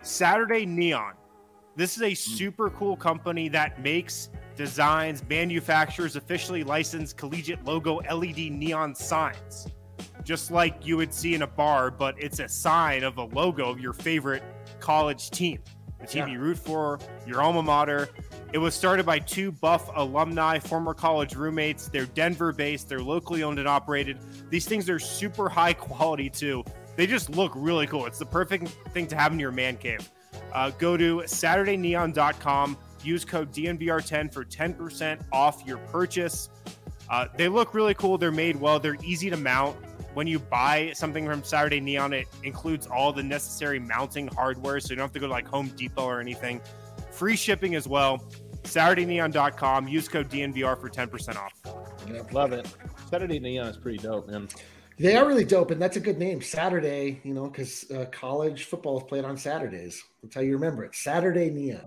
Saturday Neon. This is a super cool company that makes, designs, manufactures officially licensed collegiate logo LED neon signs. Just like you would see in a bar, but it's a sign of a logo of your favorite college team. The team you root for, your alma mater. It was started by two Buff alumni, former college roommates. They're Denver-based. They're locally owned and operated. These things are super high quality, too. They just look really cool. It's the perfect thing to have in your man cave. Go to SaturdayNeon.com. Use code DNVR10 for 10% off your purchase. They look really cool. They're made well. They're easy to mount. When you buy something from Saturday Neon, it includes all the necessary mounting hardware, so you don't have to go to like Home Depot or anything. Free shipping as well. SaturdayNeon.com. Use code DNVR for 10% off. Yep. Love it. Saturday Neon is pretty dope, man. They are really dope, and that's a good name, Saturday, because college football is played on Saturdays. That's how you remember it. Saturday Neon.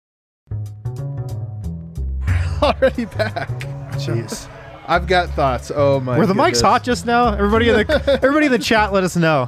Already back. Jeez. I've got thoughts. Oh my! Were the mics hot just now? Everybody in the chat, let us know.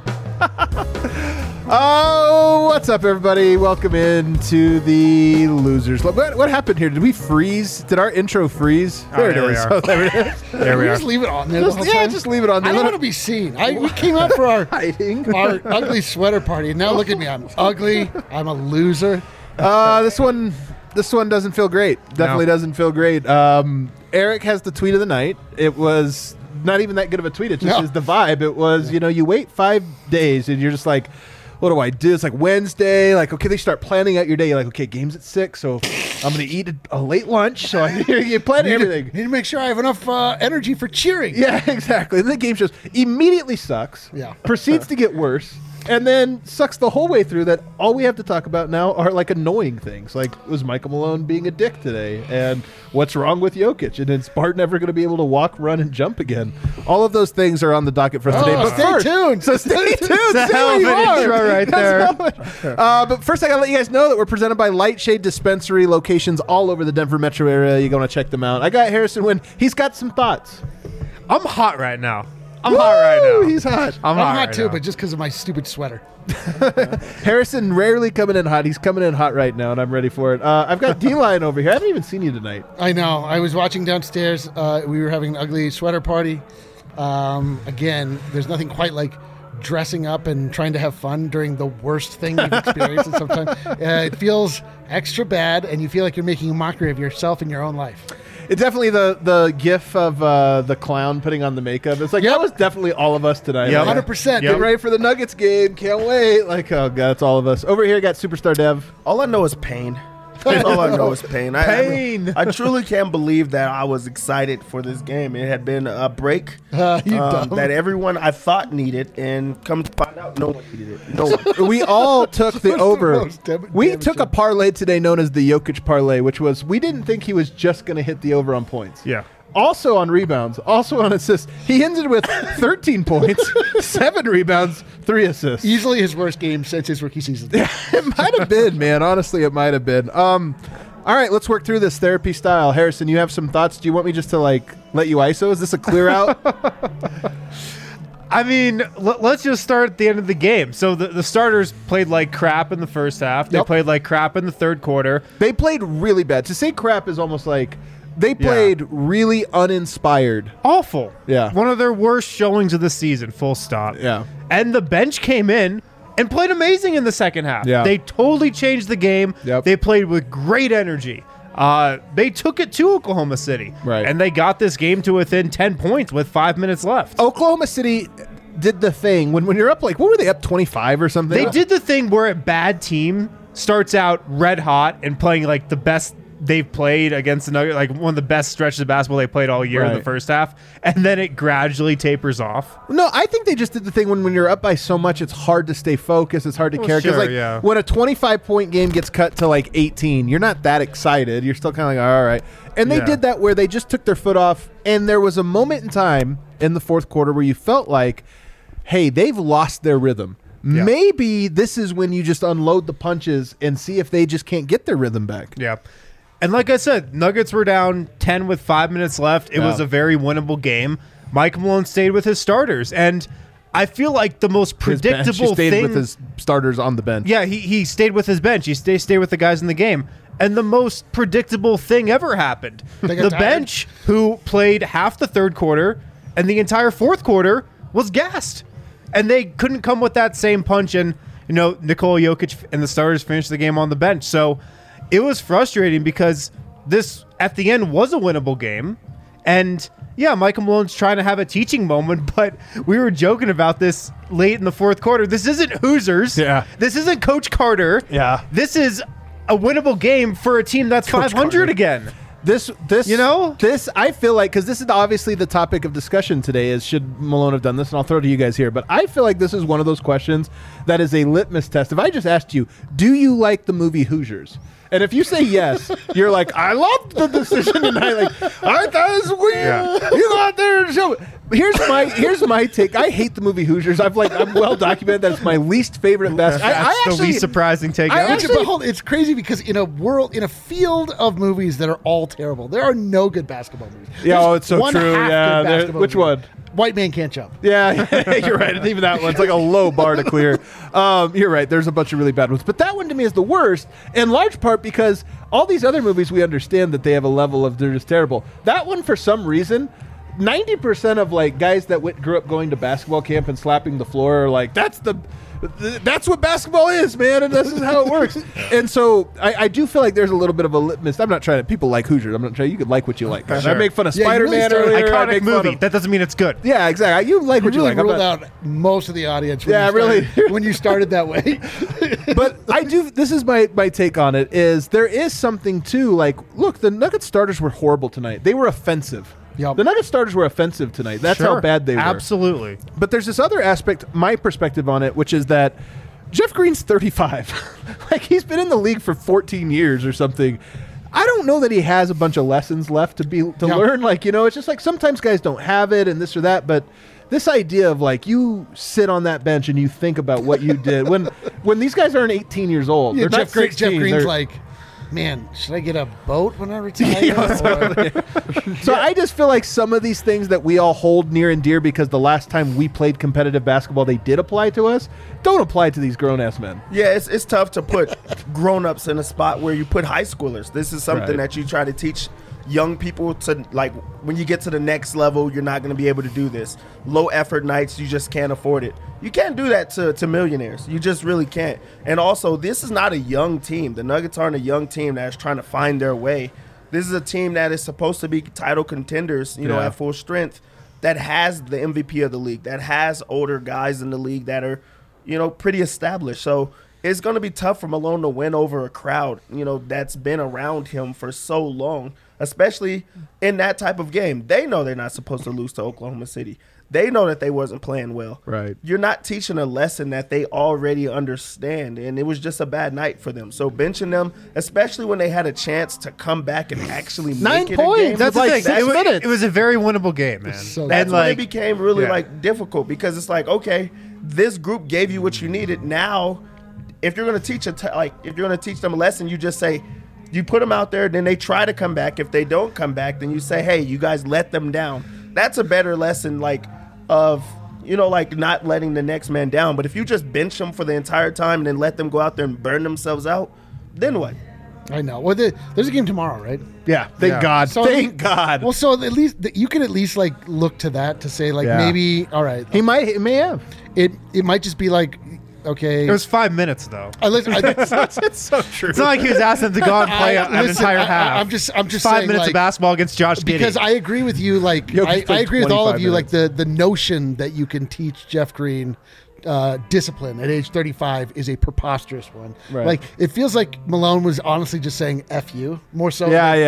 Oh, what's up, everybody? Welcome into the Losers. What happened here? Did we freeze? Did our intro freeze? There it is. Oh, there it is. There we are. Just leave it on there. Just leave it on there. I don't want to be seen. We came out for our ugly sweater party, and now look at me. I'm ugly. I'm a loser. This one doesn't feel great. Definitely doesn't feel great. Eric has the tweet of the night. It was not even that good of a tweet. It just is the vibe. It was, you wait 5 days and you're just like, what do I do? It's like Wednesday. Like, okay, they start planning out your day. You're like, okay, game's at 6, so I'm going to eat a late lunch. So you plan everything. Need to make sure I have enough energy for cheering. Yeah, exactly. And then the game just immediately sucks. Yeah. Proceeds to get worse. And then sucks the whole way through that all we have to talk about now are like annoying things. Like, was Michael Malone being a dick today? And what's wrong with Jokic? And is Bart never going to be able to walk, run, and jump again? All of those things are on the docket for us today. But stay tuned. So stay tuned. That's a hell of an intro right there. But first, I got to let you guys know that we're presented by Lightshade Dispensary, locations all over the Denver metro area. You're going to check them out. I got Harrison Wynn. He's got some thoughts. I'm hot right now. I'm hot right now. He's hot. I'm hot right too, now. but just because of my stupid sweater. Harrison rarely coming in hot. He's coming in hot right now, and I'm ready for it. I've got D-Line over here. I haven't even seen you tonight. I know. I was watching downstairs. We were having an ugly sweater party. Again, there's nothing quite like dressing up and trying to have fun during the worst thing you've experienced in some time. It feels extra bad, and you feel like you're making a mockery of yourself and your own life. It's definitely the gif of the clown putting on the makeup. It's like, that was definitely all of us tonight. Yep. 100%. Get ready for the Nuggets game. Can't wait. Like, oh, God, it's all of us. Over here, got Superstar Dev. All I know is pain. That's all I know is pain. Pain. I truly can't believe that I was excited for this game. It had been a break that everyone I thought needed, and come to find out, no one needed it. No one. We all took the over. We took a damaging. parlay today known as the Jokic parlay, which was we didn't think he was just going to hit the over on points. Yeah. Also on rebounds, also on assists. He ended with 13 points, 7 rebounds, 3 assists. Easily his worst game since his rookie season. It might have been, man. Honestly, it might have been. All right, let's work through this therapy style. Harrison, you have some thoughts? Do you want me just to let you ISO? Is this a clear out? I mean, let's just start at the end of the game. So the starters played like crap in the first half. They played like crap in the third quarter. They played really bad. To say crap is almost like they played really uninspired. Awful. Yeah. One of their worst showings of the season, full stop. Yeah. And the bench came in and played amazing in the second half. Yeah. They totally changed the game. Yep. They played with great energy. They took it to Oklahoma City. Right. And they got this game to within 10 points with 5 minutes left. Oklahoma City did the thing when you're up, like, what were they, up 25 or something? They did the thing where a bad team starts out red hot and playing like the best they've played against the Nuggets, like one of the best stretches of basketball they played all year in the first half, and then it gradually tapers off. No, I think they just did the thing when you're up by so much, it's hard to stay focused. It's hard to care. Because when a 25-point game gets cut to like 18, you're not that excited. You're still kind of like, all right. And they did that where they just took their foot off, and there was a moment in time in the fourth quarter where you felt like, hey, they've lost their rhythm. Yeah. Maybe this is when you just unload the punches and see if they just can't get their rhythm back. Yeah. And like I said, Nuggets were down 10 with 5 minutes left. It was a very winnable game. Mike Malone stayed with his starters. And I feel like the most predictable he stayed thing with his starters on the bench. Yeah, he stayed with his bench. He stayed with the guys in the game. And the most predictable thing ever happened. The bench, who played half the third quarter and the entire fourth quarter, was gassed. And they couldn't come with that same punch. And, Nikola Jokic and the starters finished the game on the bench. So it was frustrating because this, at the end, was a winnable game. And, yeah, Michael Malone's trying to have a teaching moment, but we were joking about this late in the fourth quarter. This isn't Hoosiers. Yeah. This isn't Coach Carter. Yeah. This is a winnable game for a team that's Coach 500 Carter. Again. This, I feel like, because this is obviously the topic of discussion today, is should Malone have done this? And I'll throw it to you guys here. But I feel like this is one of those questions that is a litmus test. If I just asked you, do you like the movie Hoosiers? And if you say yes, you're like, I loved the decision tonight. Like, I thought it was weird. Yeah. You go out there and show. Here's my take. I hate the movie Hoosiers. I'm well documented that it's my least favorite basketball. That's the least surprising take. It's crazy because in a field of movies that are all terrible, there are no good basketball movies. Yeah, it's so true. Yeah, which one? White Man Can't Jump. Yeah, you're right. And even that one's like a low bar to clear. You're right. There's a bunch of really bad ones. But that one to me is the worst, in large part because all these other movies, we understand that they have a level of they're just terrible. That one, for some reason, 90% of like guys that grew up going to basketball camp and slapping the floor are like, that's what basketball is, man, and this is how it works. And so I do feel like there's a little bit of a litmus. I'm not trying to. People like Hoosiers. I'm not trying. You could like what you like. Sure. I make fun of Spider-Man earlier. Iconic movie. That doesn't mean it's good. Yeah, exactly. You like what you like. Ruled out most of the audience. When you started that way. But I do. This is my take on it. Is there is something to like. Look, the Nuggets starters were horrible tonight. They were offensive. Yep. The Nuggets starters were offensive tonight. That's how bad they were. Absolutely. But there's this other aspect, my perspective on it, which is that Jeff Green's 35. Like, he's been in the league for 14 years or something. I don't know that he has a bunch of lessons left to learn. Like, it's just like sometimes guys don't have it and this or that. But this idea of like you sit on that bench and you think about what you did when these guys aren't 18 years old. Yeah, Jeff Green's like, man, should I get a boat when I retire? So I just feel like some of these things that we all hold near and dear because the last time we played competitive basketball, they did apply to us, don't apply to these grown-ass men. Yeah, it's tough to put grown-ups in a spot where you put high schoolers. This is something that you try to teach young people to, like, when you get to the next level, you're not going to be able to do this. Low effort nights, you just can't afford it. You can't do that to millionaires. You just really can't. And also, this is not a young team. The Nuggets aren't a young team that's trying to find their way. This is a team that is supposed to be title contenders, at full strength, that has the MVP of the league, that has older guys in the league that are, pretty established. So it's going to be tough for Malone to win over a crowd, that's been around him for so long, especially in that type of game. They know they're not supposed to lose to Oklahoma City. They know that they wasn't playing well. Right. You're not teaching a lesson that they already understand, and it was just a bad night for them. So benching them, especially when they had a chance to come back and actually make it 9 points. a game. That's like the thing. 6 minutes. It was a very winnable game, man. That's when it became really difficult because it's like, okay, this group gave you what you needed. Now, if you're going to teach if you're going to teach them a lesson, you just say, you put them out there, then they try to come back. If they don't come back, then you say, hey, you guys let them down. That's a better lesson, of not letting the next man down. But if you just bench them for the entire time and then let them go out there and burn themselves out, then what? I know. Well, there's a game tomorrow, right? Yeah. Thank God. So thank God. Well, so at least you can at least look to that to say maybe all right. He may have. It might just be like, okay. It was 5 minutes though. It's so true. It's not like he was asking them to go out and play an entire half. I'm just 5 saying, minutes of basketball against Josh Giddey. Because I agree with you. I agree with all of you. Minutes. The notion that you can teach Jeff Green discipline at age 35 is a preposterous one. Right. It feels like Malone was honestly just saying "f you" more so.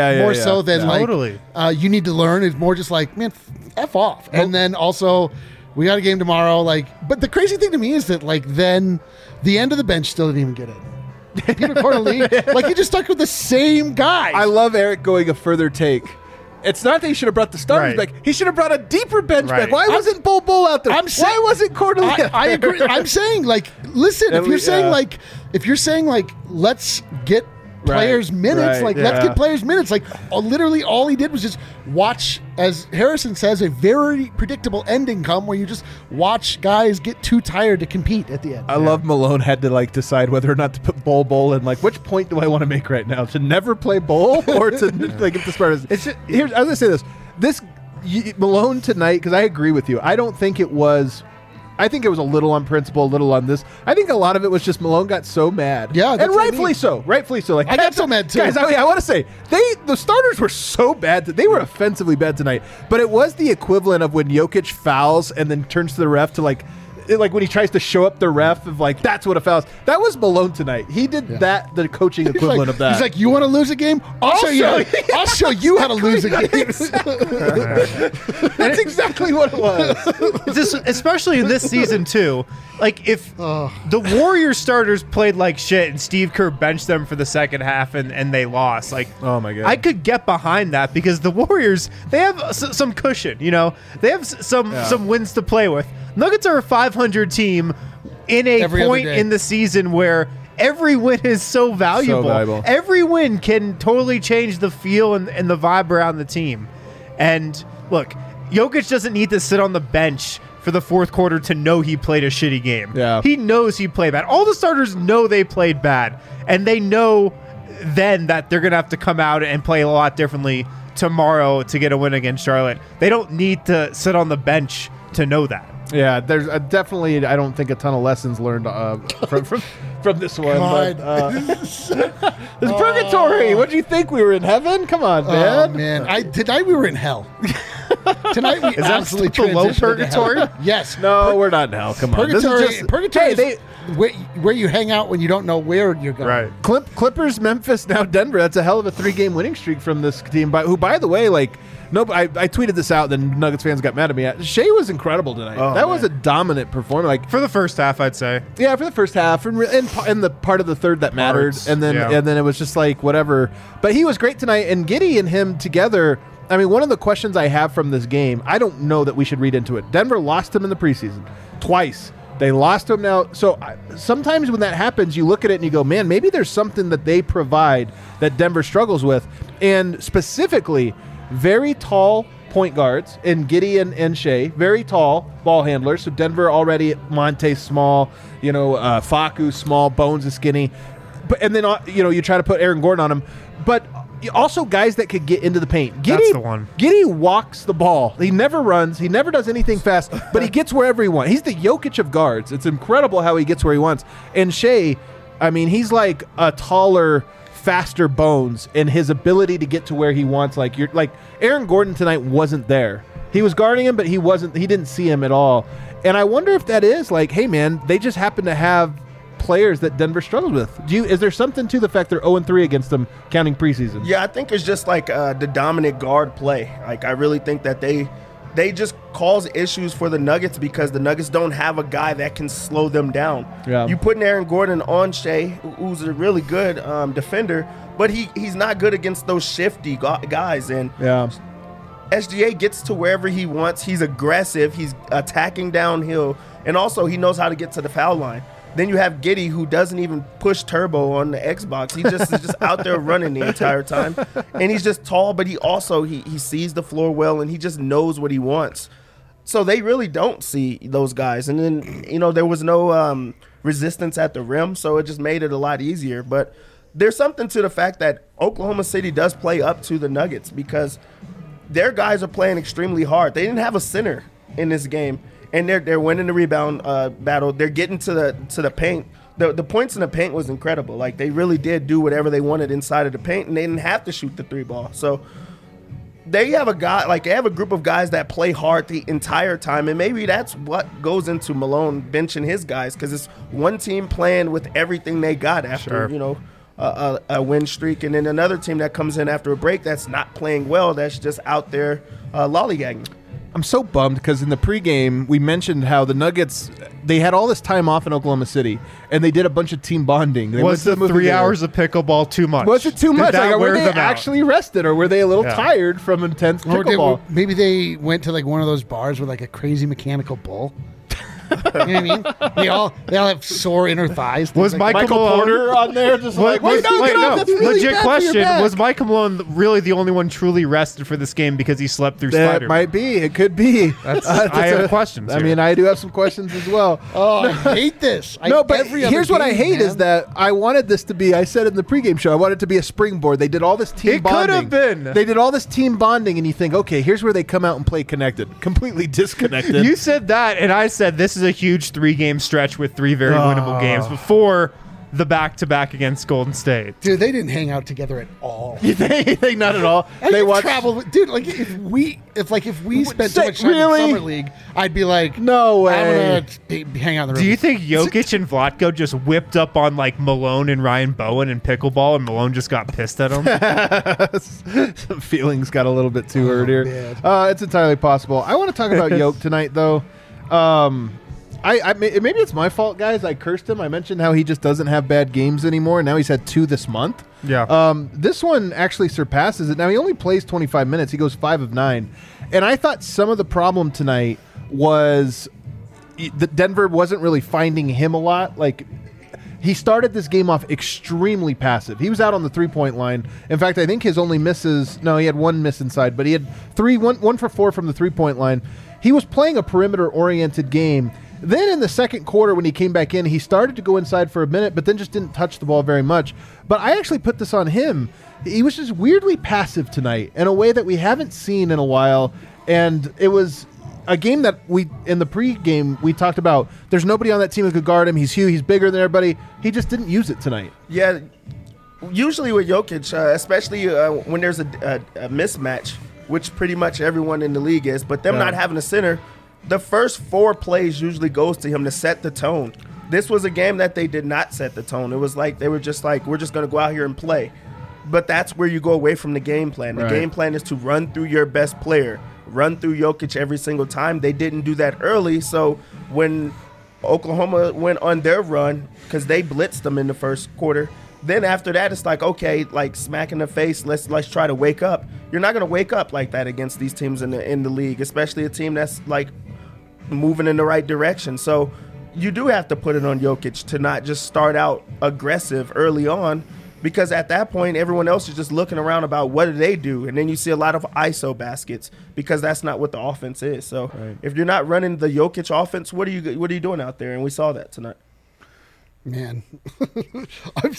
So than totally. You need to learn. It's more just like, man, f off. And then also, we got a game tomorrow. But the crazy thing to me is that then the end of the bench still didn't even get in. Peter Corneli, he just stuck with the same guy. I love Eric going a further take. It's not that he should have brought the starters back. He should have brought a deeper bench back. Why wasn't Bol Bol out there? Why wasn't Corneli? I agree. I'm saying listen, if you're saying let's get players minutes. Like, let's get players minutes. Like, literally all he did was just watch, as Harrison says, a very predictable ending come where you just watch guys get too tired to compete at the end. I love Malone had to like decide whether or not to put bowl and like which point do I want to make right now, to never play bowl or to like get the Spartans. Here's I was gonna say this Malone tonight, because I agree with you. I don't think it was. I think it was a little on principle, a little on this. I think a lot of it was just Malone got so mad. Yeah, and rightfully so. Rightfully so. Like, I got so mad too. Guys, I want to say the starters were so bad that they were offensively bad tonight. But it was the equivalent of when Jokic fouls and then turns to the ref to like when he tries to show up the ref of like, that's what a foul is. That was Malone tonight. He did that, the coaching equivalent of that. He's like, you want to lose a game? I'll show you how to lose a game. That's exactly what it was. Especially in this season too. Like, if the Warriors starters played like shit and Steve Kerr benched them for the second half and they lost, like, oh my God, I could get behind that because the Warriors, they have some cushion, you know, they have some wins to play with. Nuggets are a 500 team in a point in the season where every win is so valuable. Every win can totally change the feel and the vibe around the team. And look, Jokic doesn't need to sit on the bench for the fourth quarter to know he played a shitty game. Yeah. He knows he played bad. All the starters know they played bad, and they know then that they're going to have to come out and play a lot differently tomorrow to get a win against Charlotte. They don't need to sit on the bench to know that. Yeah, there's definitely, I don't think, a ton of lessons learned from this one. God. But it's purgatory. What do you think? We were in heaven? Come on, man. Oh, man. Tonight we were in hell. Tonight we absolutely below transitioned purgatory? To hell. Yes. No, we're not in hell. Come on. Purgatory is where you hang out when you don't know where you're going. Right. Clippers, Memphis, now Denver. That's a hell of a 3-game winning streak from this team. Who, by the way, like, I tweeted this out, then Nuggets fans got mad at me. Shea was incredible tonight. That was a dominant performance. Like, for the first half, I'd say. Yeah, for the first half, and the part of the third that mattered, and then it was just like whatever. But he was great tonight, and Giddey and him together. I mean, one of the questions I have from this game, I don't know that we should read into it. Denver lost him in the preseason twice. They lost him now. So sometimes when that happens, you look at it and you go, man, maybe there's something that they provide that Denver struggles with, and specifically very tall point guards in Giddey and Shea, very tall ball handlers. So Denver already, Monte small, Facu small, Bones is skinny. And then, you try to put Aaron Gordon on him. But also guys that could get into the paint. That's the one. Giddey walks the ball. He never runs. He never does anything fast, but he gets wherever he wants. He's the Jokic of guards. It's incredible how he gets where he wants. And Shea, I mean, he's like a taller, faster Bones in his ability to get to where he wants. Like Aaron Gordon tonight wasn't there. He was guarding him, but he didn't see him at all. And I wonder if that is like, hey man, they just happen to have players that Denver struggles with. Is there something to the fact they're 0-3 against them counting preseason? Yeah, I think it's just like the dominant guard play. Like, I really think that they just cause issues for the Nuggets because the Nuggets don't have a guy that can slow them down. Yeah. You putting Aaron Gordon on Shea, who's a really good defender, but he's not good against those shifty guys. And SGA gets to wherever he wants. He's aggressive. He's attacking downhill. And also, he knows how to get to the foul line. Then you have Giddey, who doesn't even push turbo on the Xbox. He just is just out there running the entire time. And he's just tall, but he also he sees the floor well, and he just knows what he wants. So they really don't see those guys. And then, there was no resistance at the rim, so it just made it a lot easier. But there's something to the fact that Oklahoma City does play up to the Nuggets because their guys are playing extremely hard. They didn't have a center in this game. And they're winning the rebound battle. They're getting to the paint. The points in the paint was incredible. Like, they really did do whatever they wanted inside of the paint, and they didn't have to shoot the 3-ball. So they have a group of guys that play hard the entire time, and maybe that's what goes into Malone benching his guys, because it's one team playing with everything they got after a win streak, and then another team that comes in after a break that's not playing well, that's just out there lollygagging. I'm so bummed because in the pregame, we mentioned how the Nuggets, they had all this time off in Oklahoma City, and they did a bunch of team bonding. Was the 3 hours of pickleball too much? Was it too much? Were they actually rested, or were they a little tired from intense pickleball? Maybe they went to like one of those bars with like a crazy mechanical bull. You know what I mean? They all have sore inner thighs. Was Michael Porter on there just like, no. That's really Legit bad question. Was Michael Malone really the only one truly rested for this game because he slept through Spider-Man? That might be. It could be. I have questions I here. mean, I do have some questions as well. Oh, I hate this. But here's what I hate is that I wanted this to be, I said in the pregame show, I wanted it to be a springboard. They did all this team bonding. It could have been. They did all this team bonding, and you think, okay, here's where they come out and play connected. Completely disconnected. You said that, and I said this is a huge 3-game stretch with 3 very winnable games before the back-to-back against Golden State. Dude, they didn't hang out together at all. You think not at all? They traveled, dude. Like if we spent so much time in summer league, I'd be like, no way. I'm gonna hang out in the room. Do you think Jokic and Vlatko just whipped up on like Malone and Ryan Bowen in pickleball, and Malone just got pissed at him? Some feelings got a little bit too hurt here. It's entirely possible. I want to talk about Jokic tonight, though. Maybe it's my fault, guys. I cursed him. I mentioned how he just doesn't have bad games anymore, and now he's had 2 this month. Yeah. This one actually surpasses it. Now, he only plays 25 minutes. He goes 5 of 9. And I thought some of the problem tonight was that Denver wasn't really finding him a lot. Like, he started this game off extremely passive. He was out on the 3-point line. In fact, I think his only misses – no, he had 1 miss inside, but he had 1 for 4 from the 3-point line. He was playing a perimeter-oriented game. Then in the second quarter, when he came back in, he started to go inside for a minute, but then just didn't touch the ball very much. But I actually put this on him. He was just weirdly passive tonight in a way that we haven't seen in a while. And it was a game that in the pregame, we talked about there's nobody on that team who could guard him. He's huge. He's bigger than everybody. He just didn't use it tonight. Yeah. Usually with Jokic, especially when there's a mismatch, which pretty much everyone in the league is, but them not having a center, the first 4 plays usually goes to him to set the tone. This was a game that they did not set the tone. It was like they were just like, we're just going to go out here and play. But that's where you go away from the game plan. The game plan is to run through your best player, run through Jokic every single time. They didn't do that early, so when Oklahoma went on their run, because they blitzed them in the first quarter, then after that, it's like, okay, like smack in the face, let's try to wake up. You're not going to wake up like that against these teams in the league, especially a team that's like moving in the right direction. So you do have to put it on Jokic to not just start out aggressive early on, because at that point, everyone else is just looking around about what do they do, and then you see a lot of ISO baskets because that's not what the offense is. So if you're not running the Jokic offense, what are you doing out there? And we saw that tonight. Man, I'm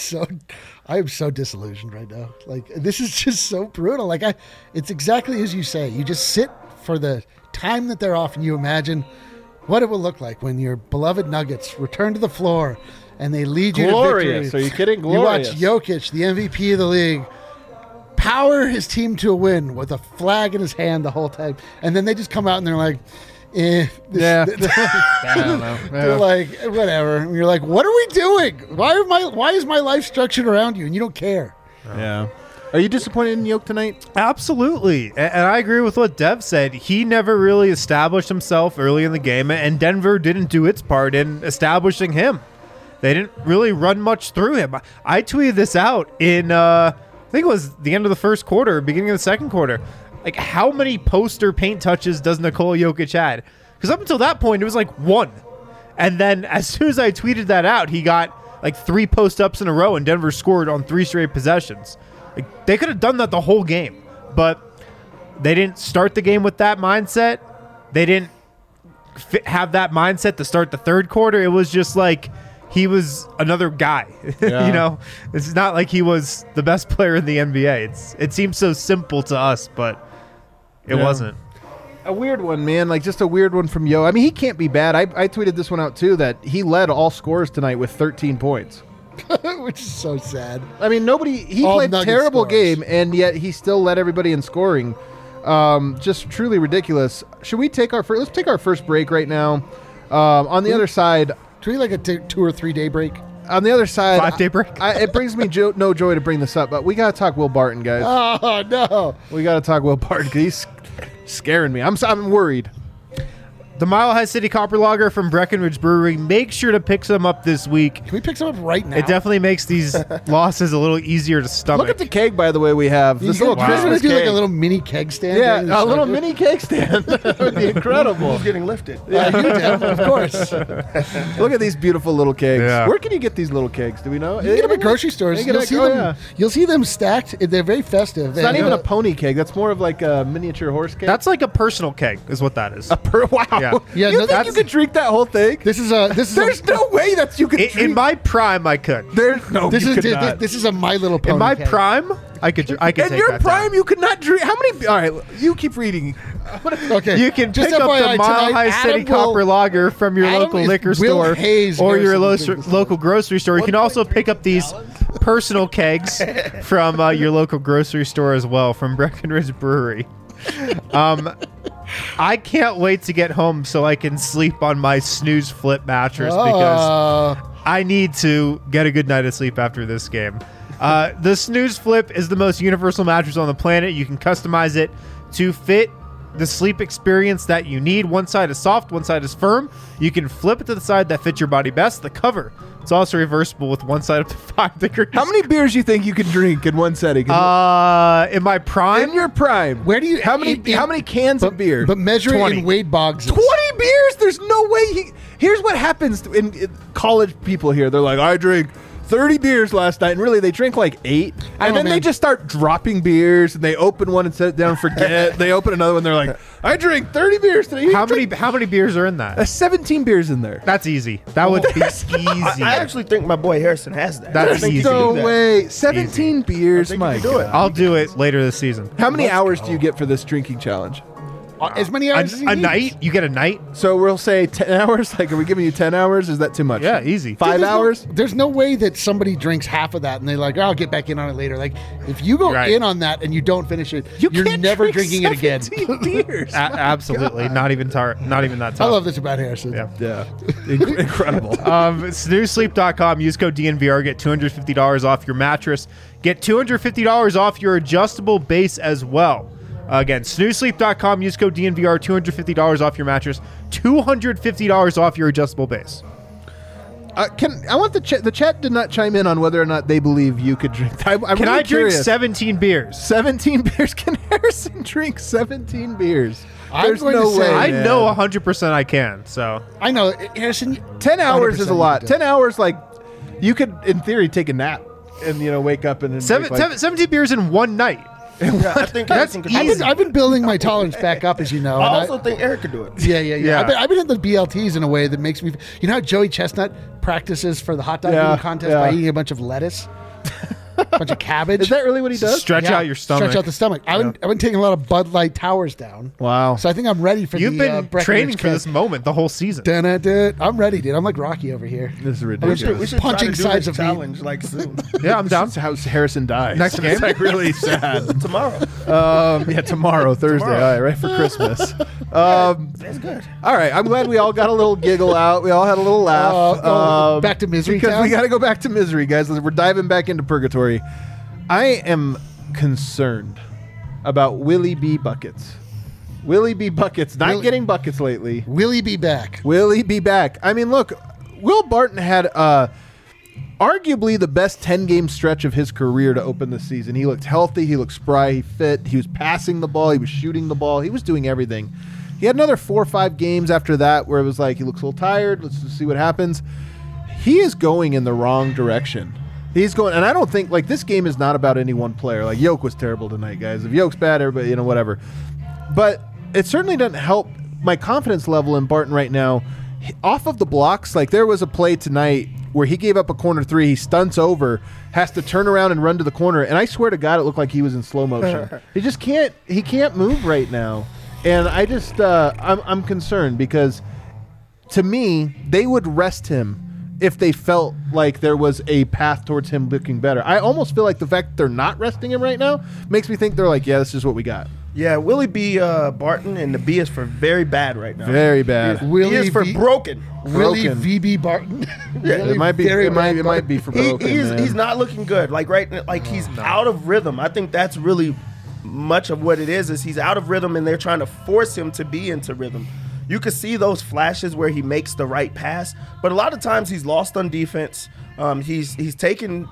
so disillusioned right now. Like, this is just so brutal. Like, it's exactly as you say. You just sit for the time that they're off and you imagine what it will look like when your beloved Nuggets return to the floor and they lead you glorious. to victory. Are you kidding? Glorious. You watch Jokic, the MVP of the league, power his team to a win with a flag in his hand the whole time. And then they just come out and they're like, I don't know. They're like, whatever. And you're like, what are we doing? Why is my life structured around you? And you don't care. Yeah. Are you disappointed in Jokic tonight? Absolutely. And I agree with what Dev said. He never really established himself early in the game, and Denver didn't do its part in establishing him. They didn't really run much through him. I tweeted this out in, I think it was the end of the first quarter, beginning of the second quarter. Like, how many poster paint touches does Nikola Jokic had? Because up until that point, it was like 1. And then as soon as I tweeted that out, he got like 3 post-ups in a row, and Denver scored on 3 straight possessions. Like, they could have done that the whole game, but they didn't start the game with that mindset. They didn't have that mindset to start the third quarter. It was just like he was another guy. Yeah. You know, it's not like he was the best player in the NBA. It seems so simple to us, but it wasn't. A weird one, man. Like, just a weird one from Yo. I mean, he can't be bad. I tweeted this one out, too, that he led all scorers tonight with 13 points. Which is so sad. I mean, he played a terrible game, and yet he still led everybody in scoring. Just truly ridiculous. Should we take let's take our first break right now. On the other side. Should we like a 2 or 3 day break? On the other side, 5-day break. It brings me no joy to bring this up, but we got to talk Will Barton, guys. Oh, no. We got to talk Will Barton because he's scaring me. I'm worried. the Mile High City Copper Lager from Breckenridge Brewery. Make sure to pick some up this week. Can we pick some up right now? It definitely makes these losses a little easier to stomach. Look at the keg, by the way, we have. This little Chris Christmas do like keg. a little mini keg stand. Yeah, a little mini cake stand. That would be incredible. Who's getting lifted? Yeah, you did, of course. Look at these beautiful little kegs. Yeah. Where can you get these little kegs? Do we know? You get them at grocery stores. You'll see them stacked. They're very festive. It's not even a pony keg. That's more of like a miniature horse keg. That's like a personal keg, is what that is. Wow. Yeah. You think you could drink that whole thing? There's no way that you could drink. In my prime, I could. There's no. This is a My Little Pony. In my keg. prime, I could. In take your that prime, down. you could not drink. How many? All right, you keep reading. Okay, You can just pick up FYI, the Mile tonight, High City Adam will- Copper Lager from your Adam local is liquor Will store Hayes or your Harrison local grocery store. You can also pick up these personal kegs from your local grocery store as well from Breckenridge Brewery. I can't wait to get home so I can sleep on my snooze flip mattress because I need to get a good night of sleep after this game. The Snooze Flip is the most universal mattress on the planet. You can customize it to fit the sleep experience that you need. One side is soft, one side is firm. You can flip it to the side that fits your body best. The cover, it's also reversible with one side up to 5 degrees. How many beers do you think you could drink in one setting? In my prime? In your prime. Where do you? How many cans of beer? But measure 20. it in Wade Boggs. 20 beers? There's no way. Here's what happens in college people here. They're like, I drink 30 beers last night, and really they drink like 8, and then they just start dropping beers, and they open one and set it down and forget. They open another one, they're like, I drink 30 beers today. How many beers are in that? 17 beers in there. That's easy. That would be easy. I actually think my boy Harrison has that. That's I think he easy. can No do that. way. 17 beers, I think my you can do it. God. I'll do it later this season. How many hours do you get for this drinking challenge? As many hours as he A needs. night? You get a night? So we'll say 10 hours. Like, are we giving you 10 hours? Is that too much? Yeah, easy. 5 There's hours? there's no way that somebody drinks half of that and they're like, oh, I'll get back in on it later. Like, if you go Right. in on that and you don't finish it, You you're can't never drink drinking it again. 17 beers. Absolutely. Not even that tough. I love this about Harrison. Yeah. Yeah. Incredible. Snoozesleep.com. Use code DNVR. Get $250 off your mattress. Get $250 off your adjustable base as well. Again, snoozesleep.com. Use code DNVR. $250 off your mattress. $250 off your adjustable base. I want the chat did not chime in on whether or not they believe you could drink. Can really I drink curious. 17 beers? 17 beers? Can Harrison drink 17 beers? I'm There's going to no say- way. I man. know 100% I can. So I know. Harrison, 10 hours is a 100% lot. you do. 10 hours, like, you could, in theory, take a nap and, wake up and then drink, like, 17 beers in one night. Yeah, I think Harrison could do it. I've been building my tolerance back up, as you know. I and also think Eric could do it. Yeah. Yeah. I've been hitting the BLTs in a way that makes me. You know how Joey Chestnut practices for the hot dog eating contest by eating a bunch of lettuce, a bunch of cabbage. Is that really what he does? Stretch out your stomach. Stretch out the stomach. I've been taking a lot of Bud Light Towers down. Wow. So I think I'm ready for You've the been Breckenridge training for Cup. this moment the whole season. Dun-dun-dun. I'm ready, dude. I'm like Rocky over here. This is I'm ridiculous. just We should punching try to do sides this of meat. challenge like soon. Yeah, I'm down. That's how Harrison dies. Next game? It's like really sad. Tomorrow. Yeah, tomorrow, Thursday. All right, right for Christmas. That's good. All right, I'm glad we all got a little giggle out. We all had a little laugh. Back to Misery because Town? we got to go back to misery, guys. We're diving back into purgatory. I am concerned about Willie B. Buckets. Willie B. Buckets not getting buckets lately. Will he be back? Will he be back? I mean, look, Will Barton had arguably the best 10-game stretch of his career to open the season. He looked healthy. He looked spry. He fit. He was passing the ball. He was shooting the ball. He was doing everything. He had another 4 or 5 games after that where it was like, he looks a little tired. Let's just see what happens. He is going in the wrong direction. He's going, and I don't think, like, this game is not about any one player. Like, Yoke was terrible tonight, guys. If Yoke's bad, everybody, whatever. But it certainly doesn't help my confidence level in Barton right now. Off of the blocks, like, there was a play tonight where he gave up a corner 3. He stunts over, has to turn around and run to the corner. And I swear to God, it looked like he was in slow motion. He just can't move right now. And I just, I'm concerned because to me, they would rest him if they felt like there was a path towards him looking better. I almost feel like the fact that they're not resting him right now makes me think they're like, yeah, this is what we got. Yeah, Willie B. Barton, and the B is for very bad right now. Very bad. B is for broken. Willie Broken. VB Barton. It might be. It might be for broken. Man. He's not looking good. Like he's out of rhythm. I think that's really much of what it is he's out of rhythm, and they're trying to force him to be into rhythm. you can see those flashes where he makes the right pass, but a lot of times he's lost on defense. He's taken.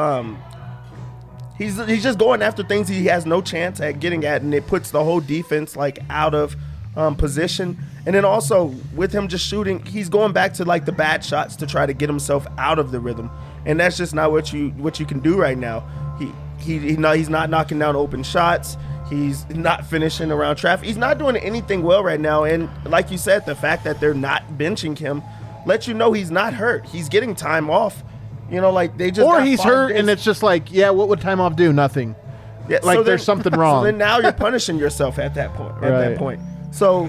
He's just going after things he has no chance at getting at, and it puts the whole defense like out of position. And then also with him just shooting, he's going back to like the bad shots to try to get himself out of the rhythm, and that's just not what you can do right now. He's not knocking down open shots. He's not finishing around traffic. He's not doing anything well right now. And like you said, the fact that they're not benching him lets you know he's not hurt. He's getting time off. You know, like they just. Or he's hurt, and it's just like, yeah, what would time off do? Nothing. Yeah, like so there's something wrong. So then now you're punishing yourself at that point. So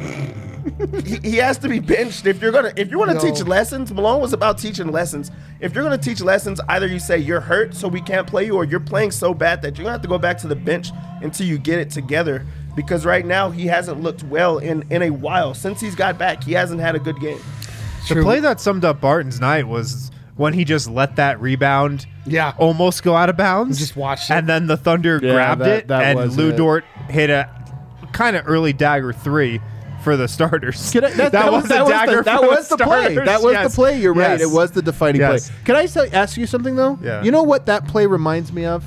he has to be benched if you want to teach lessons. Malone was about teaching lessons. If you're going to teach lessons, either you say you're hurt so we can't play you, or you're playing so bad that you're going to have to go back to the bench until you get it together. Because right now he hasn't looked well in a while. Since he's got back, he hasn't had a good game. The play that summed up Barton's night was when he just let that rebound almost go out of bounds. Just watched it. And then the Thunder grabbed it, and Lou Dort hit a kind of early dagger 3 for the starters. That was the play. That was the play. You're right. It was the defining play. Can I ask you something, though? Yeah. You know what that play reminds me of?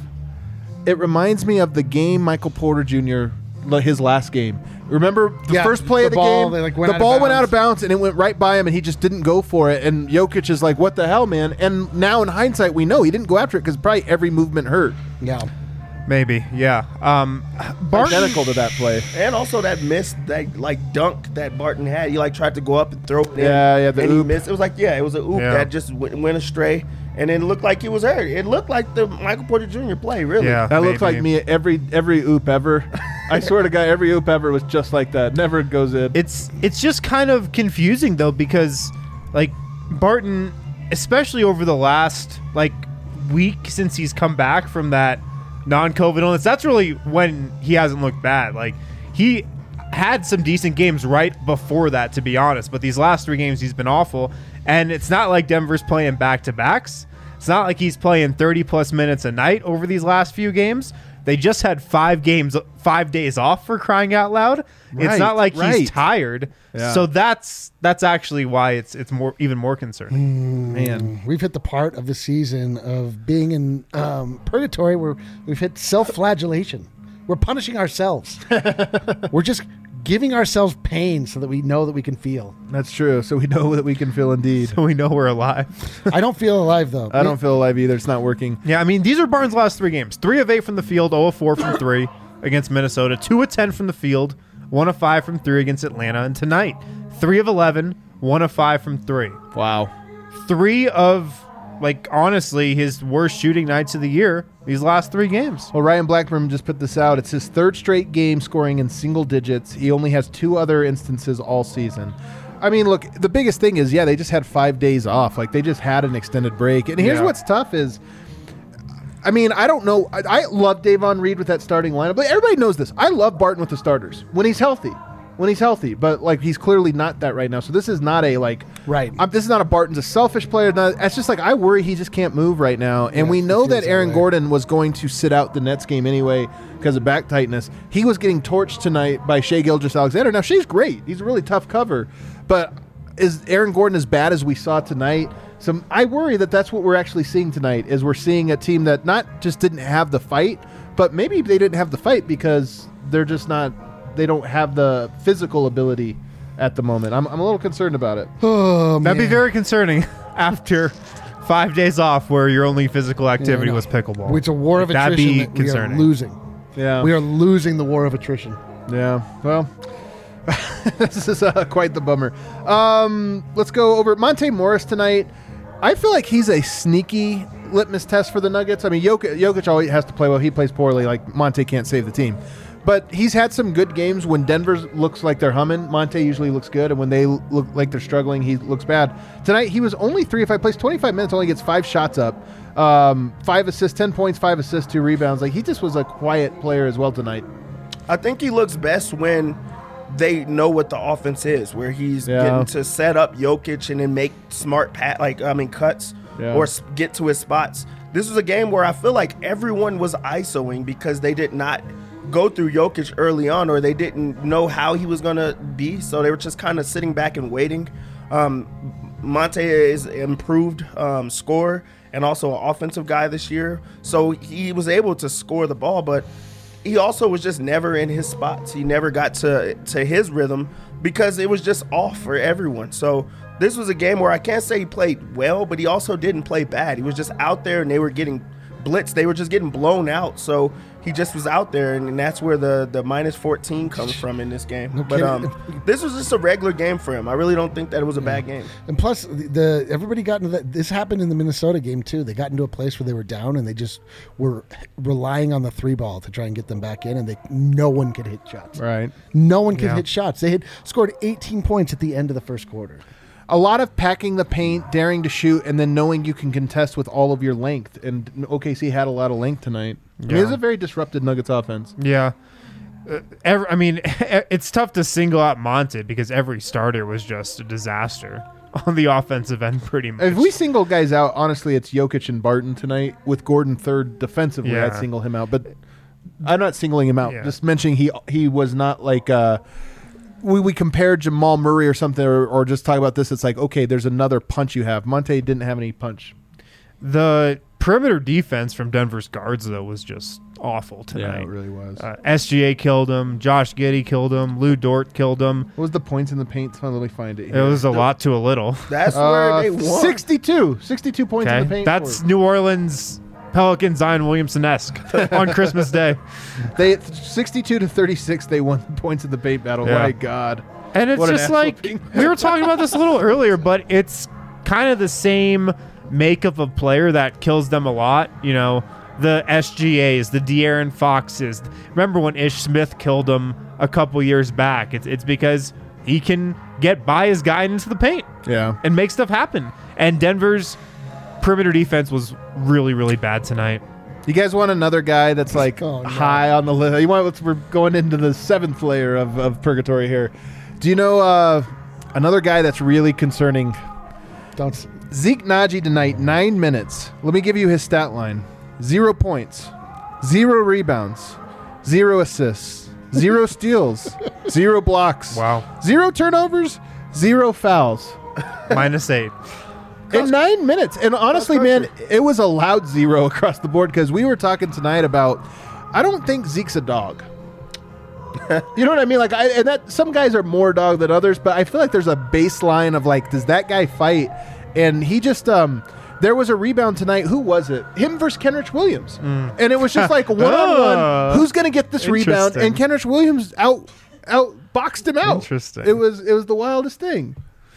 It reminds me of the game Michael Porter Jr., his last game. Remember the first play of the game? The ball went out of bounds, and it went right by him, and he just didn't go for it. And Jokic is like, what the hell, man? And now in hindsight, we know he didn't go after it because probably every movement hurt. Yeah. Maybe, yeah. Identical to that play. And also that missed, that like dunk that Barton had. He like tried to go up and throw it in. Yeah, the and oop. He missed. It was like, it was an oop that just went astray. And it looked like he was hurt. It looked like the Michael Porter Jr. play, really. Yeah, that looks like me every oop ever. I swear to God, every oop ever was just like that. Never goes in. It's just kind of confusing, though, because like Barton, especially over the last like week since he's come back from that non-COVID illness, that's really when he hasn't looked bad. Like he had some decent games right before that, to be honest, but these last 3 games he's been awful. And it's not like Denver's playing back-to-backs. It's not like he's playing 30-plus minutes a night over these last few games. They just had 5 days off, for crying out loud. It's not like he's tired. Yeah. So that's actually why it's even more concerning. Man, we've hit the part of the season of being in purgatory where we've hit self-flagellation. We're punishing ourselves. We're just giving ourselves pain so that we know that we can feel. That's true. So we know that we can feel indeed. So we know we're alive. I don't feel alive, though. I don't feel alive either. It's not working. Yeah, I mean, these are Barnes' last 3 games. 3 of 8 from the field, 0 of 4 from 3 against Minnesota, 2 of 10 from the field, 1 of 5 from 3 against Atlanta. And tonight, 3 of 11, 1 of 5 from 3. Wow. 3 of, like, honestly, his worst shooting nights of the year, these last 3 games. Well, Ryan Blackburn just put this out. It's his 3rd straight game scoring in single digits. He only has 2 other instances all season. I mean, look, the biggest thing is, they just had 5 days off. Like, they just had an extended break. And here's what's tough is, I mean, I don't know. I love Davon Reed with that starting lineup. But everybody knows this. I love Barton with the starters when he's healthy. But like he's clearly not that right now. So this is not a this is not a Barton's a selfish player. It's just like I worry he just can't move right now. And we know that Aaron Gordon was going to sit out the Nets game anyway because of back tightness. He was getting torched tonight by Shai Gilgeous-Alexander. Now Shai's great. He's a really tough cover. But is Aaron Gordon as bad as we saw tonight? So I worry that that's what we're actually seeing tonight. Is we're seeing a team that not just didn't have the fight, but maybe they didn't have the fight because they're just not. They don't have the physical ability at the moment. I'm a little concerned about it. Oh, That'd be very concerning after 5 days off where your only physical activity was pickleball. It's a war of attrition that'd be that concerning. we are losing. Yeah. We are losing the war of attrition. Yeah. Well, this is quite the bummer. Let's go over Monte Morris tonight. I feel like he's a sneaky litmus test for the Nuggets. I mean, Jokic always has to play well. He plays poorly. Like, Monte can't save the team. But he's had some good games when Denver looks like they're humming. Monte usually looks good, and when they look like they're struggling, he looks bad. Tonight, he was only 3 of 5 plays, 25 minutes, only gets 5 shots up, 5 assists, 10 points, 5 assists, 2 rebounds. Like he just was a quiet player as well tonight. I think he looks best when they know what the offense is, where he's getting to set up Jokic and then make smart cuts or get to his spots. This was a game where I feel like everyone was ISOing because they did not go through Jokic early on, or they didn't know how he was going to be. So they were just kind of sitting back and waiting. Monte is improved scorer and also an offensive guy this year. So he was able to score the ball, but he also was just never in his spots. He never got to his rhythm because it was just off for everyone. So this was a game where I can't say he played well, but he also didn't play bad. He was just out there and they were getting blitzed. They were just getting blown out. So he just was out there, and that's where the minus 14 comes from in this game. No but this was just a regular game for him. I really don't think that it was a bad game. And plus, everybody got into that. This happened in the Minnesota game too. They got into a place where they were down, and they just were relying on the 3-ball to try and get them back in, and no one could hit shots. Right. No one could hit shots. They had scored 18 points at the end of the first quarter. A lot of packing the paint, daring to shoot, and then knowing you can contest with all of your length. And OKC had a lot of length tonight. Yeah. I mean, it's a very disrupted Nuggets offense. Yeah. It's tough to single out Monte because every starter was just a disaster on the offensive end pretty much. If we single guys out, honestly, it's Jokic and Barton tonight with Gordon third defensively. Yeah. I'd single him out. But I'm not singling him out. Yeah. Just mentioning he was not like we compared Jamal Murray or something or just talk about this. It's like, okay, there's another punch you have. Monte didn't have any punch. The perimeter defense from Denver's guards, though, was just awful tonight. Yeah, it really was. SGA killed him. Josh Giddey killed him. Lou Dort killed him. What was the points in the paint? Let me find it here. It was a lot to a little. That's where they won. 62 points in the paint. That's New Orleans Pelican Zion Williamson-esque on Christmas Day. They 62-36. They won points in the paint battle. Yeah. My God! And it's just like we were talking about this a little earlier, but it's kind of the same makeup of player that kills them a lot. You know, the SGAs, the De'Aaron Foxes. Remember when Ish Smith killed them a couple years back? It's because he can get by his guy into the paint, and make stuff happen. And Denver's perimeter defense was really, really bad tonight. You guys want another guy that's like high on the list? We're going into the 7th layer of purgatory here. Do you know another guy that's really concerning? Zeke Naji tonight, 9 minutes. Let me give you his stat line. 0 points, 0 rebounds, 0 assists, 0 steals, 0 blocks. Wow. 0 turnovers, 0 fouls. -8. In 9 minutes. And honestly, man, it was a loud 0 across the board because we were talking tonight about, I don't think Zeke's a dog. You know what I mean? Like, some guys are more dog than others, but I feel like there's a baseline of like, does that guy fight? And he just, there was a rebound tonight. Who was it? Him versus Kenrich Williams. And it was just like one-on-one. Who's going to get this rebound? And Kenrich Williams out boxed him out. Interesting. It was the wildest thing.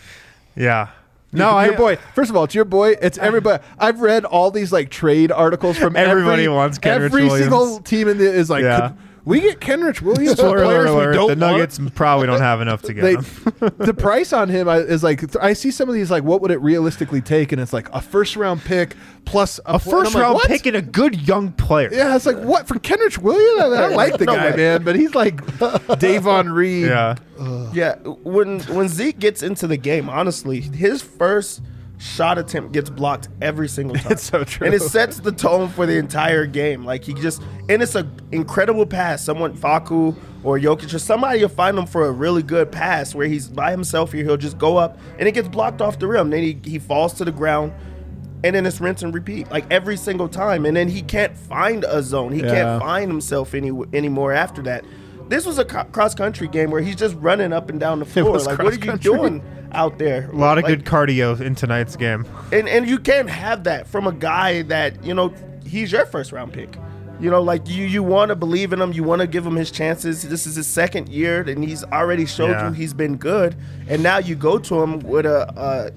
Yeah. No, your boy. First of all, it's your boy. It's everybody. I've read all these like trade articles from everybody wants Kenrich Williams. Every single team in the is like, we get Kenrich Williams. Spoiler alert, the Nuggets probably don't have enough to get him. The price on him is like, I see some of these like, what would it realistically take? And it's like a 1st-round pick plus a first-round pick and a good young player. Yeah, it's like, what? For Kenrich Williams? I like the guy, man, but he's like Davon Reed. Yeah. Yeah, when Zeke gets into the game, honestly, his first shot attempt gets blocked every single time. It's so true. And it sets the tone for the entire game. Like, and it's an incredible pass. Someone, Facu or Jokic or somebody will find him for a really good pass where he's by himself here. He'll just go up and it gets blocked off the rim. Then he falls to the ground and then it's rinse and repeat like every single time. And then he can't find a zone. He can't find himself anymore after that. This was a cross-country game where he's just running up and down the floor. Like, what are you doing out there? A lot of good cardio in tonight's game. And you can't have that from a guy that, you know, he's your first-round pick. You know, like, you want to believe in him. You want to give him his chances. This is his 2nd year, and he's already showed you he's been good. And now you go to him with a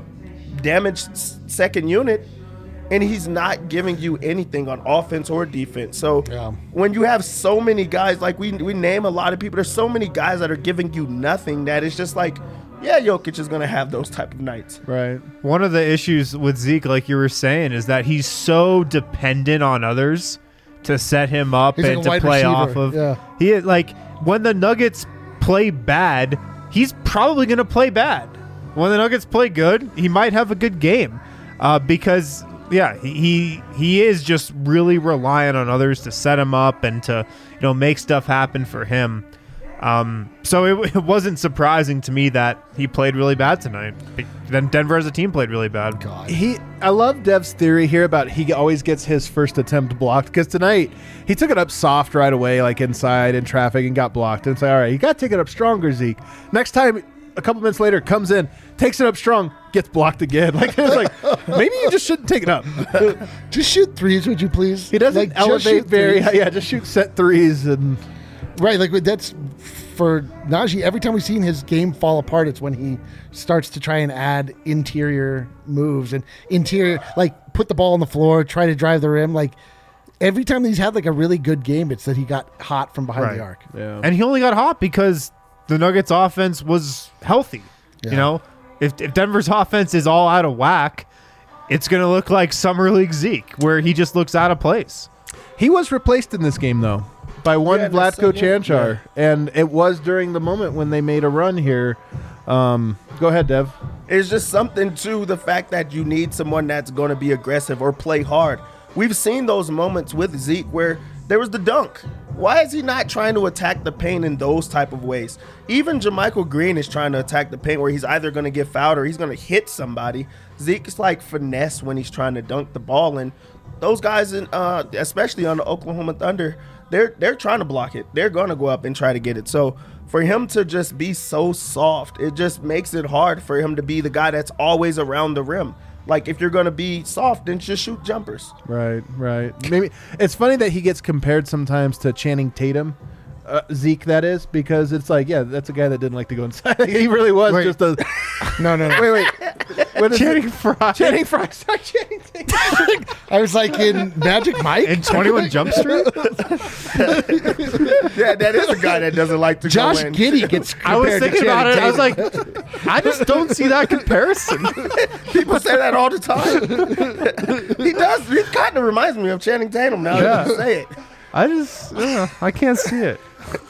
damaged 2nd unit, and he's not giving you anything on offense or defense. So when you have so many guys, like we name a lot of people, there's so many guys that are giving you nothing that it's just like, yeah, Jokic is going to have those type of nights. Right. One of the issues with Zeke, like you were saying, is that he's so dependent on others to set him up and to play off of. Yeah. He like when the Nuggets play bad, he's probably going to play bad. When the Nuggets play good, he might have a good game because Yeah, he is just really reliant on others to set him up and to make stuff happen for him. So it wasn't surprising to me that he played really bad tonight. Then Denver as a team played really bad. God. I love Dev's theory here about he always gets his first attempt blocked, because tonight he took it up soft right away, like inside in traffic, and got blocked. And it's like, all right, you got to take it up stronger, Zeke. Next time, a couple minutes later, comes in, takes it up strong, gets blocked again. Like, it's like, maybe you just shouldn't take it up. Just shoot threes, would you please? He doesn't elevate very high. Yeah, just shoot set threes. And right, like that's for Najee. Every time we've seen his game fall apart, it's when he starts to try and add interior moves and like put the ball on the floor, try to drive the rim. Like every time he's had like a really good game, it's that he got hot from behind the arc. Yeah. And he only got hot because the Nuggets offense was healthy. Yeah. If Denver's offense is all out of whack, it's going to look like Summer League Zeke, where he just looks out of place. He was replaced in this game, though, by one Vlatko Cancar, and it was during the moment when they made a run here. Go ahead, Dev. It's just something to the fact that you need someone that's going to be aggressive or play hard. We've seen those moments with Zeke where there was the dunk. Why is he not trying to attack the paint in those type of ways? Even JaMychal Green is trying to attack the paint where he's either going to get fouled or he's going to hit somebody. Zeke's like finesse when he's trying to dunk the ball, and those guys, especially on the Oklahoma Thunder, they're trying to block it. They're going to go up and try to get it. So for him to just be so soft, it just makes it hard for him to be the guy that's always around the rim. Like, if you're going to be soft, then just shoot jumpers. Right. Maybe it's funny that he gets compared sometimes to Channing Tatum, Zeke, that is, because it's like, yeah, that's a guy that didn't like to go inside. He really was just a... No. Wait. Channing Frye. Channing Frye. Sorry, Channing Tatum. I was like in Magic Mike. In 21 Jump Street? Yeah, that is a guy that doesn't like to Josh go in. Giddey gets I was compared to thinking about it. Channing I was like, I just don't see that comparison. People say that all the time. He does. He kind of reminds me of Channing Tatum now that you say it. I can't see it.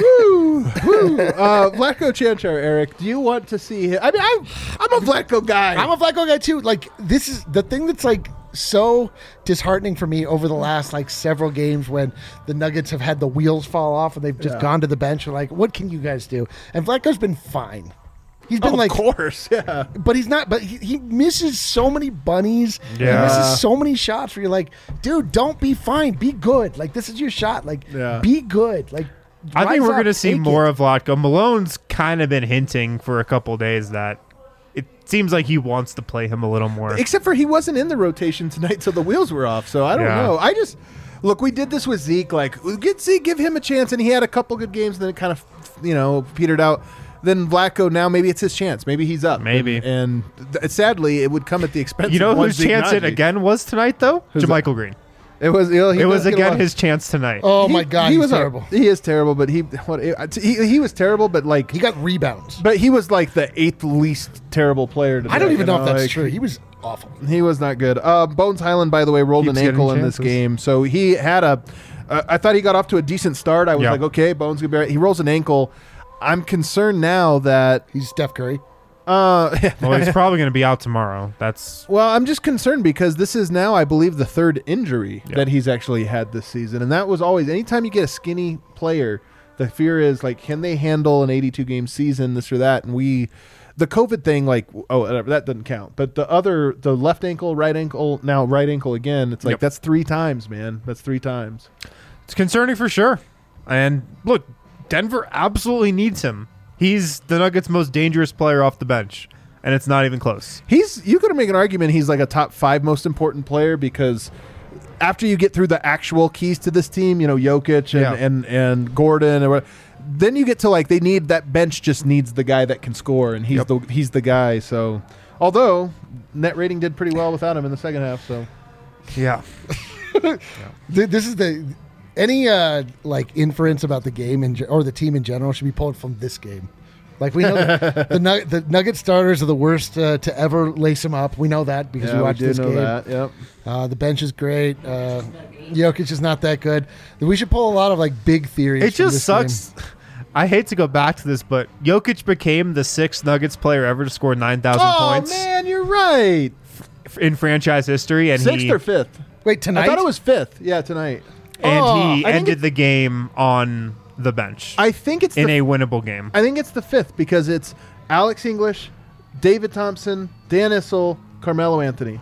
Vlatko Cancar, Eric, do you want to see him? I mean, I'm a Vlatko guy. I'm a Vlatko guy too. Like, this is the thing that's like so disheartening for me over the last like several games when the Nuggets have had the wheels fall off and they've just gone to the bench and like, what can you guys do? And Vlatko's been fine. He's been of course, yeah. But he's not. But he misses so many bunnies. Yeah. He misses so many shots where you're like, dude, don't be fine. Be good. Like, this is your shot. Like, be good. Like, I think we're going to see more of Vlatko. Malone's kind of been hinting for a couple days that it seems like he wants to play him a little more. Except for he wasn't in the rotation tonight, so the wheels were off. So I don't know. Look, we did this with Zeke. Like, give him a chance, and he had a couple good games, and then it kind of, petered out. Then Vlatko, now maybe it's his chance. Maybe he's up. Maybe. And sadly, it would come at the expense of whose chance it again was tonight, though? JaMychal Green. It was. It was again his chance tonight. Oh my God, he was terrible. He is terrible, but he was terrible, but like he got rebounds. But he was like the 8th least terrible player today. I don't even know if that's true. He was awful. He was not good. Bones Highland, by the way, rolled an ankle in this game, so he had I thought he got off to a decent start. I was like, okay, Bones gonna be right. He rolls an ankle. I'm concerned now that he's Steph Curry. Well, he's probably going to be out tomorrow. Well, I'm just concerned because this is now, I believe, the 3rd injury that he's actually had this season. And that was always, anytime you get a skinny player, the fear is, like, can they handle an 82-game season, this or that? And the COVID thing, like, that doesn't count. But the left ankle, right ankle, now right ankle again, it's like, that's 3 times, man. That's 3 times. It's concerning for sure. And look, Denver absolutely needs him. He's the Nuggets' most dangerous player off the bench, and it's not even close. You could make an argument he's like a top 5 most important player because after you get through the actual keys to this team, Jokic and Gordon, then you get to like they need that bench just needs the guy that can score, and he's the guy. So, although net rating did pretty well without him in the second half, so yeah. This is any like inference about the game or the team in general should be pulled from this game. Like, we know the Nugget starters are the worst to ever lace them up. We know that because we watched this game. That. Yep. The bench is great. Jokic is not that good. We should pull a lot of like big theories. It just sucks. Game. I hate to go back to this, but Jokic became the 6th Nuggets player ever to score 9,000 points. Oh man, you're right. in franchise history, and 6th or 5th. Wait, tonight? I thought it was 5th. Yeah, tonight. And he ended the game on the bench. I think it's in a winnable game. I think it's the 5th because it's Alex English, David Thompson, Dan Issel, Carmelo Anthony.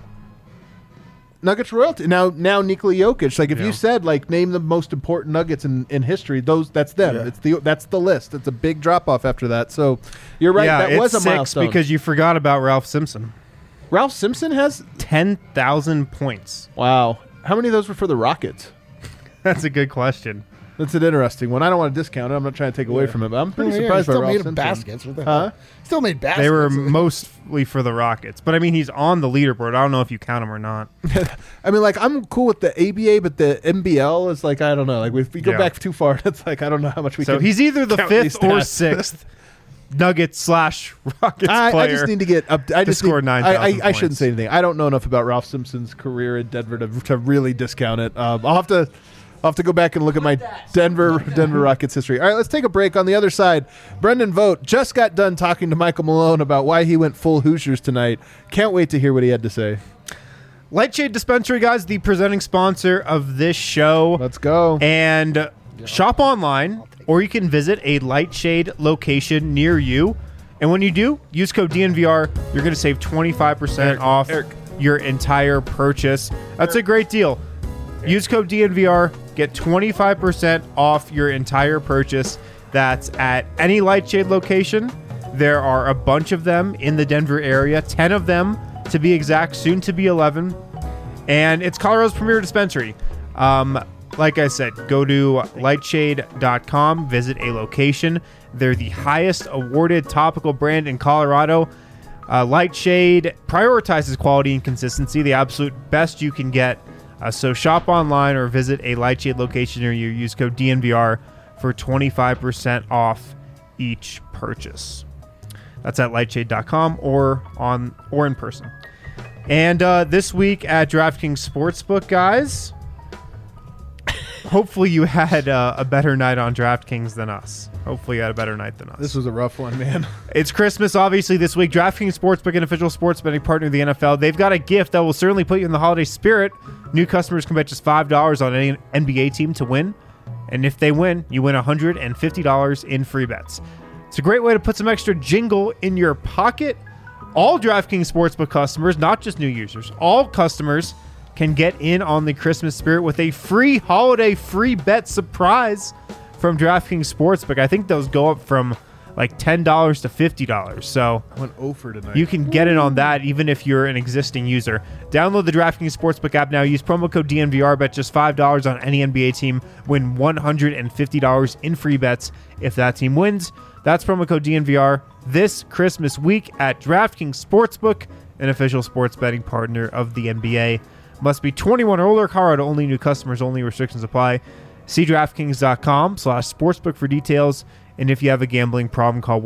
Nuggets royalty. Now Nikola Jokic. Like if you said name the most important Nuggets in history, that's them. Yeah. That's the list. It's a big drop off after that. So you're right. Yeah, that was a milestone because you forgot about Ralph Simpson. Ralph Simpson has 10,000 points. Wow. How many of those were for the Rockets? That's a good question. That's an interesting one. I don't want to discount it. I'm not trying to take away from it, but I'm pretty surprised by Ralph Simpson. Baskets. Still made baskets. They were mostly for the Rockets. But, I mean, he's on the leaderboard. I don't know if you count him or not. I mean, I'm cool with the ABA, but the NBL is I don't know. If we go back too far, it's I don't know how much we can. So he's either the 5th or 6th Nuggets/Rockets player. I just need to get up. I just score 9,000 I shouldn't say anything. I don't know enough about Ralph Simpson's career in Denver to really discount it. I'll have to go back and look at my Denver Rockets history. All right, let's take a break. On the other side, Brendan Vogt just got done talking to Michael Malone about why he went full Hoosiers tonight. Can't wait to hear what he had to say. Lightshade Dispensary, guys, the presenting sponsor of this show. Let's go. And shop online, or you can visit a Lightshade location near you. And when you do, use code DNVR. You're going to save 25% off your entire purchase. That's a great deal. Use code DNVR. Get 25% off your entire purchase. That's at any Lightshade location. There are a bunch of them in the Denver area, 10 of them to be exact, soon to be 11. And it's Colorado's premier dispensary. Like I said, go to lightshade.com, visit a location. They're the highest awarded topical brand in Colorado. Lightshade prioritizes quality and consistency, the absolute best you can get. So shop online or visit a Lightshade location near you. Use code DNVR for 25% off each purchase. That's at lightshade.com or in person. And this week at DraftKings Sportsbook, guys, hopefully you had a better night on DraftKings than us. Hopefully you had a better night than us. This was a rough one, man. It's Christmas, obviously, this week. DraftKings Sportsbook, an official sports betting partner of the NFL. They've got a gift that will certainly put you in the holiday spirit. New customers can bet just $5 on any NBA team to win. And if they win, you win $150 in free bets. It's a great way to put some extra jingle in your pocket. All DraftKings Sportsbook customers, not just new users, all customers can get in on the Christmas spirit with a free holiday free bet surprise from DraftKings Sportsbook. I think those go up from like $10 to $50. So I went over tonight. You can get in on that even if you're an existing user. Download the DraftKings Sportsbook app now. Use promo code DNVR. Bet just $5 on any NBA team. Win $150 in free bets if that team wins. That's promo code DNVR this Christmas week at DraftKings Sportsbook, an official sports betting partner of the NBA. Must be 21 or older. Colorado only. New customers only. Restrictions apply. See DraftKings.com/sportsbook for details. And if you have a gambling problem, call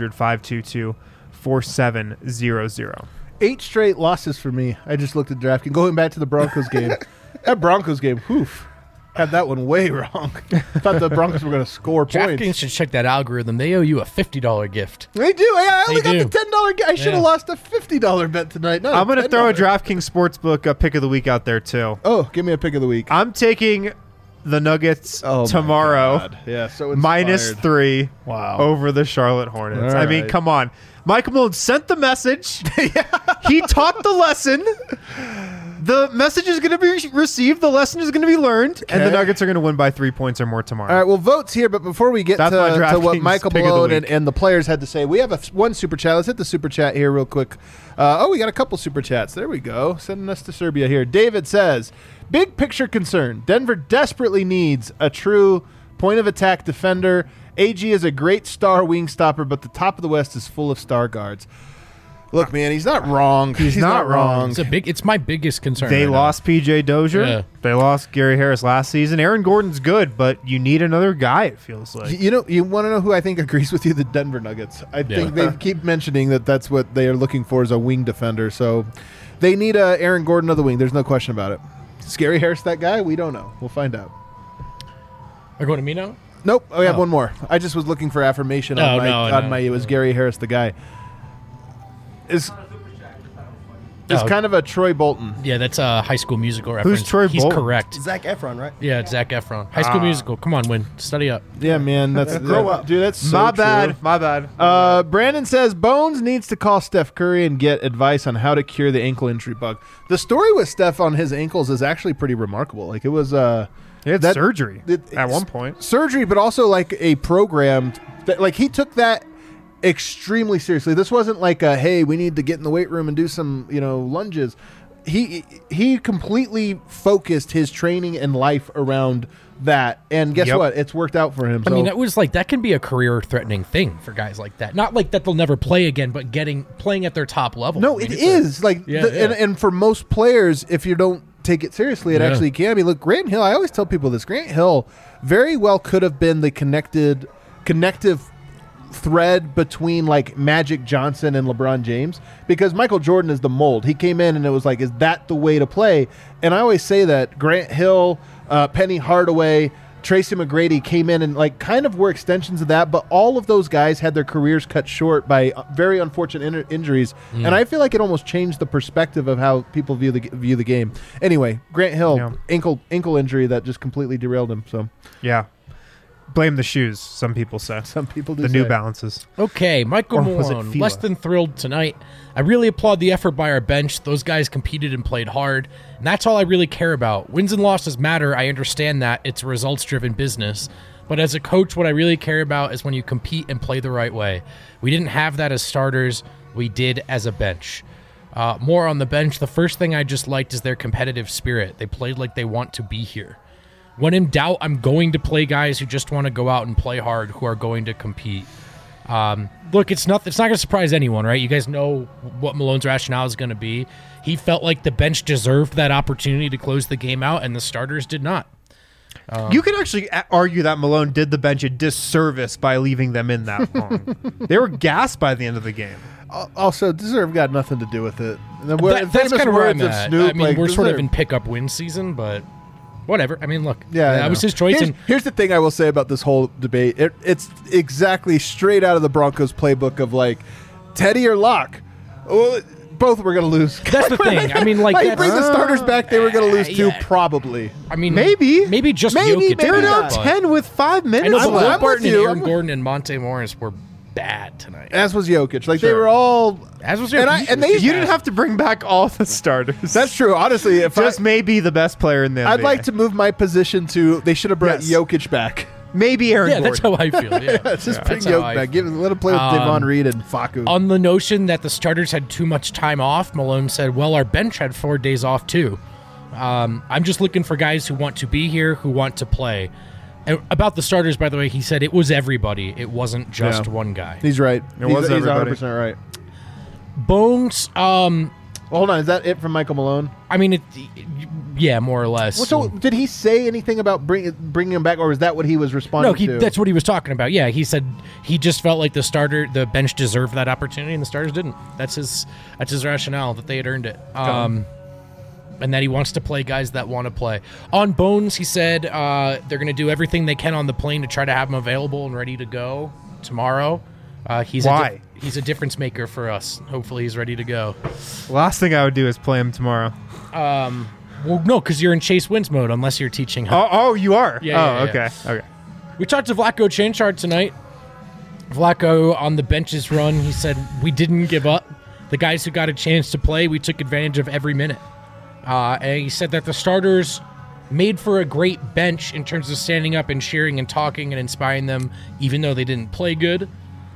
1-800-522-4700. 8 straight losses for me. I just looked at DraftKings. Going back to the Broncos game. That Broncos game, had that one way wrong. Thought the Broncos were going to score points. DraftKings should check that algorithm. They owe you a $50 gift. They do. I only got the $10 gift. I should have lost a $50 bet tonight. No, I'm going to throw a DraftKings Sportsbook pick of the week out there, too. Oh, give me a pick of the week. I'm taking the Nuggets tomorrow. Yeah, so -3 over the Charlotte Hornets. I mean, come on. Michael Malone sent the message. He taught the lesson. The message is going to be received. The lesson is going to be learned. Okay. And the Nuggets are going to win by 3 points or more tomorrow. All right, well, vote's here. But before we get to what Michael Malone and the players had to say, we have one super chat. Let's hit the super chat here real quick. We got a couple super chats. There we go. Sending us to Serbia here. David says, big picture concern. Denver desperately needs a true point-of-attack defender. AG is a great star wing stopper, but the top of the West is full of star guards. Look, man, he's not wrong. He's not wrong. It's my biggest concern. They lost PJ Dozier. Yeah. They lost Gary Harris last season. Aaron Gordon's good, but you need another guy, it feels like. You want to know who I think agrees with you? The Denver Nuggets. I think they keep mentioning that's what they are looking for, is a wing defender. So they need Aaron Gordon of the wing. There's no question about it. Is Gary Harris that guy? We don't know. We'll find out. Are going to me now? Nope. We have one more. I just was looking for affirmation on my. It was Gary Harris the guy. It's kind of a Troy Bolton. Yeah, that's a High School Musical reference. Who's Troy He's Bolton? correct. Zac Efron, right? Yeah, it's Zac Efron. High School Musical. Come on, Win. Study up. Yeah, man. That's Grow up. dude. That's so My true. bad. My bad. Brandon says Bones needs to call Steph Curry and get advice on how to cure the ankle injury bug. The story with Steph on his ankles is actually pretty remarkable. Like it was He had surgery at one point. Surgery, but also like a programmed. Like he took that extremely seriously. This wasn't like a hey, we need to get in the weight room and do some lunges. He completely focused his training and life around that, and guess what? It's worked out for him. I mean, that can be a career-threatening thing for guys like that. Not like that they'll never play again, but playing at their top level. No, it is and for most players, if you don't take it seriously, it actually can. I mean, look, Grant Hill. I always tell people this. Grant Hill very well could have been the connective thread between like Magic Johnson and LeBron James, because Michael Jordan is the mold. He came in and it was like, is that the way to play? And I always say that Grant Hill, Penny Hardaway, Tracy McGrady came in and like kind of were extensions of that, but all of those guys had their careers cut short by very unfortunate injuries, and I feel like it almost changed the perspective of how people view the game. Anyway, Grant Hill, ankle injury that just completely derailed him. So yeah. Blame the shoes, some people say. Some people do the say. New Balances. Okay, Michael Or was it Malone, Fila? less than thrilled tonight. I really applaud the effort by our bench. Those guys competed and played hard, and that's all I really care about. Wins and losses matter. I understand that. It's a results-driven business. But as a coach, what I really care about is when you compete and play the right way. We didn't have that as starters. We did as a bench. More on the bench, the first thing I just liked is their competitive spirit. They played like they want to be here. When in doubt, I'm going to play guys who just want to go out and play hard, who are going to compete. Look, it's not going to surprise anyone, right? You guys know what Malone's rationale is going to be. He felt like the bench deserved that opportunity to close the game out, and the starters did not. You could actually argue that Malone did the bench a disservice by leaving them in that long. They were gassed by the end of the game. Also, deserve got nothing to do with it. That's kind of where I'm at. Snoop, I mean, like, we're sort of deserve. in pick-up win season, but whatever. I mean, look, Yeah, that was his choice. Here's the thing I will say about this whole debate. It's exactly straight out of the Broncos playbook of like Teddy or Locke. Well, both were going to lose. That's the thing. I mean, like, bring the starters back, they were going to lose too, yeah. probably. I mean, Maybe just Maybe, Jokic. maybe they were not. down 10 with 5 I minutes know, but I'm Will left. with Barton and you. Aaron Gordon and Monte Morris were bad tonight. As was Jokic. Like they Sure. were all. As was and Jokic. they. You didn't have to bring back all the starters. That's true. Honestly, if Just maybe the best player in the NBA. I'd like to move my position to they should have brought Yes. Jokic back. Maybe Aaron Yeah, Gordon. that's how I feel. Yeah. Just bring That's how Jokic I back. feel. Let him play with Devon Reed and Facu. On the notion that the starters had too much time off, Malone said, well, our bench had 4 days off too. I'm just looking for guys who want to be here, who want to play. And about the starters, by the way, he said it was everybody. It wasn't just one guy. He's right. was he's everybody. 100% right. Bones, Well, hold on. Is that it from Michael Malone? I mean, yeah, more or less. Well, so did he say anything about bringing him back, or was that what he was responding to? that's what he was talking about. Yeah, he said he just felt like the bench deserved that opportunity, and the starters didn't. That's his rationale, that they had earned it. And that he wants to play guys that want to play. On Bones, he said they're going to do everything they can on the plane to try to have him available and ready to go tomorrow. Why? He's a difference maker for us. Hopefully he's ready to go. Last thing I would do is play him tomorrow. Well, no, because you're in Chase Wins mode unless you're teaching him. Oh, you are? Yeah, Oh, yeah, okay. We talked to Vlatko Chanchard tonight. Vlatko on the benches run, he said, we didn't give up. The guys who got a chance to play, we took advantage of every minute. And he said that the starters made for a great bench in terms of standing up and cheering and talking and inspiring them, even though they didn't play good.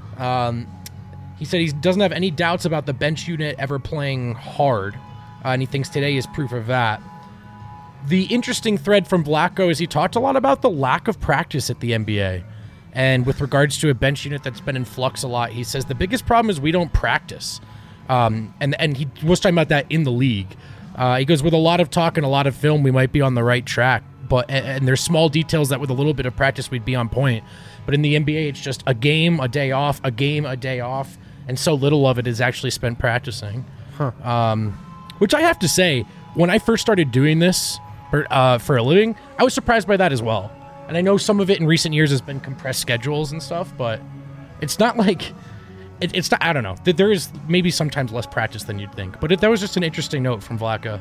He said he doesn't have any doubts about the bench unit ever playing hard, and he thinks today is proof of that. The interesting thread from Vlatko is he talked a lot about the lack of practice at the NBA. And with regards to a bench unit that's been in flux a lot, he says the biggest problem is we don't practice. And he was talking about that in the league. He goes, with a lot of talk and a lot of film, we might be on the right track. And there's small details that with a little bit of practice, we'd be on point. But in the NBA, it's just a game, a day off, a game, a day off. And so little of it is actually spent practicing. Which I have to say, when I first started doing this for a living, I was surprised by that as well. And I know some of it in recent years has been compressed schedules and stuff, but it's not like it's not, I don't know. There is maybe sometimes less practice than you'd think, but that was just an interesting note from Vlatko.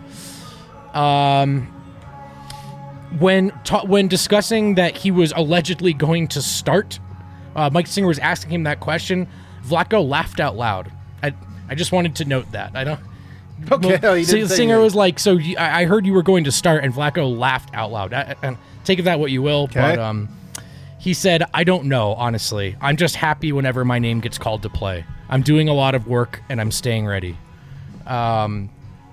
When discussing that he was allegedly going to start, Mike Singer was asking him that question. Vlatko laughed out loud. I just wanted to note that. I don't. Okay. Well, Singer was like, "So I heard you were going to start," and Vlatko laughed out loud. Take of that what you will, okay. But he said, "I don't know, honestly. I'm just happy whenever my name gets called to play. I'm doing a lot of work and I'm staying ready." Austin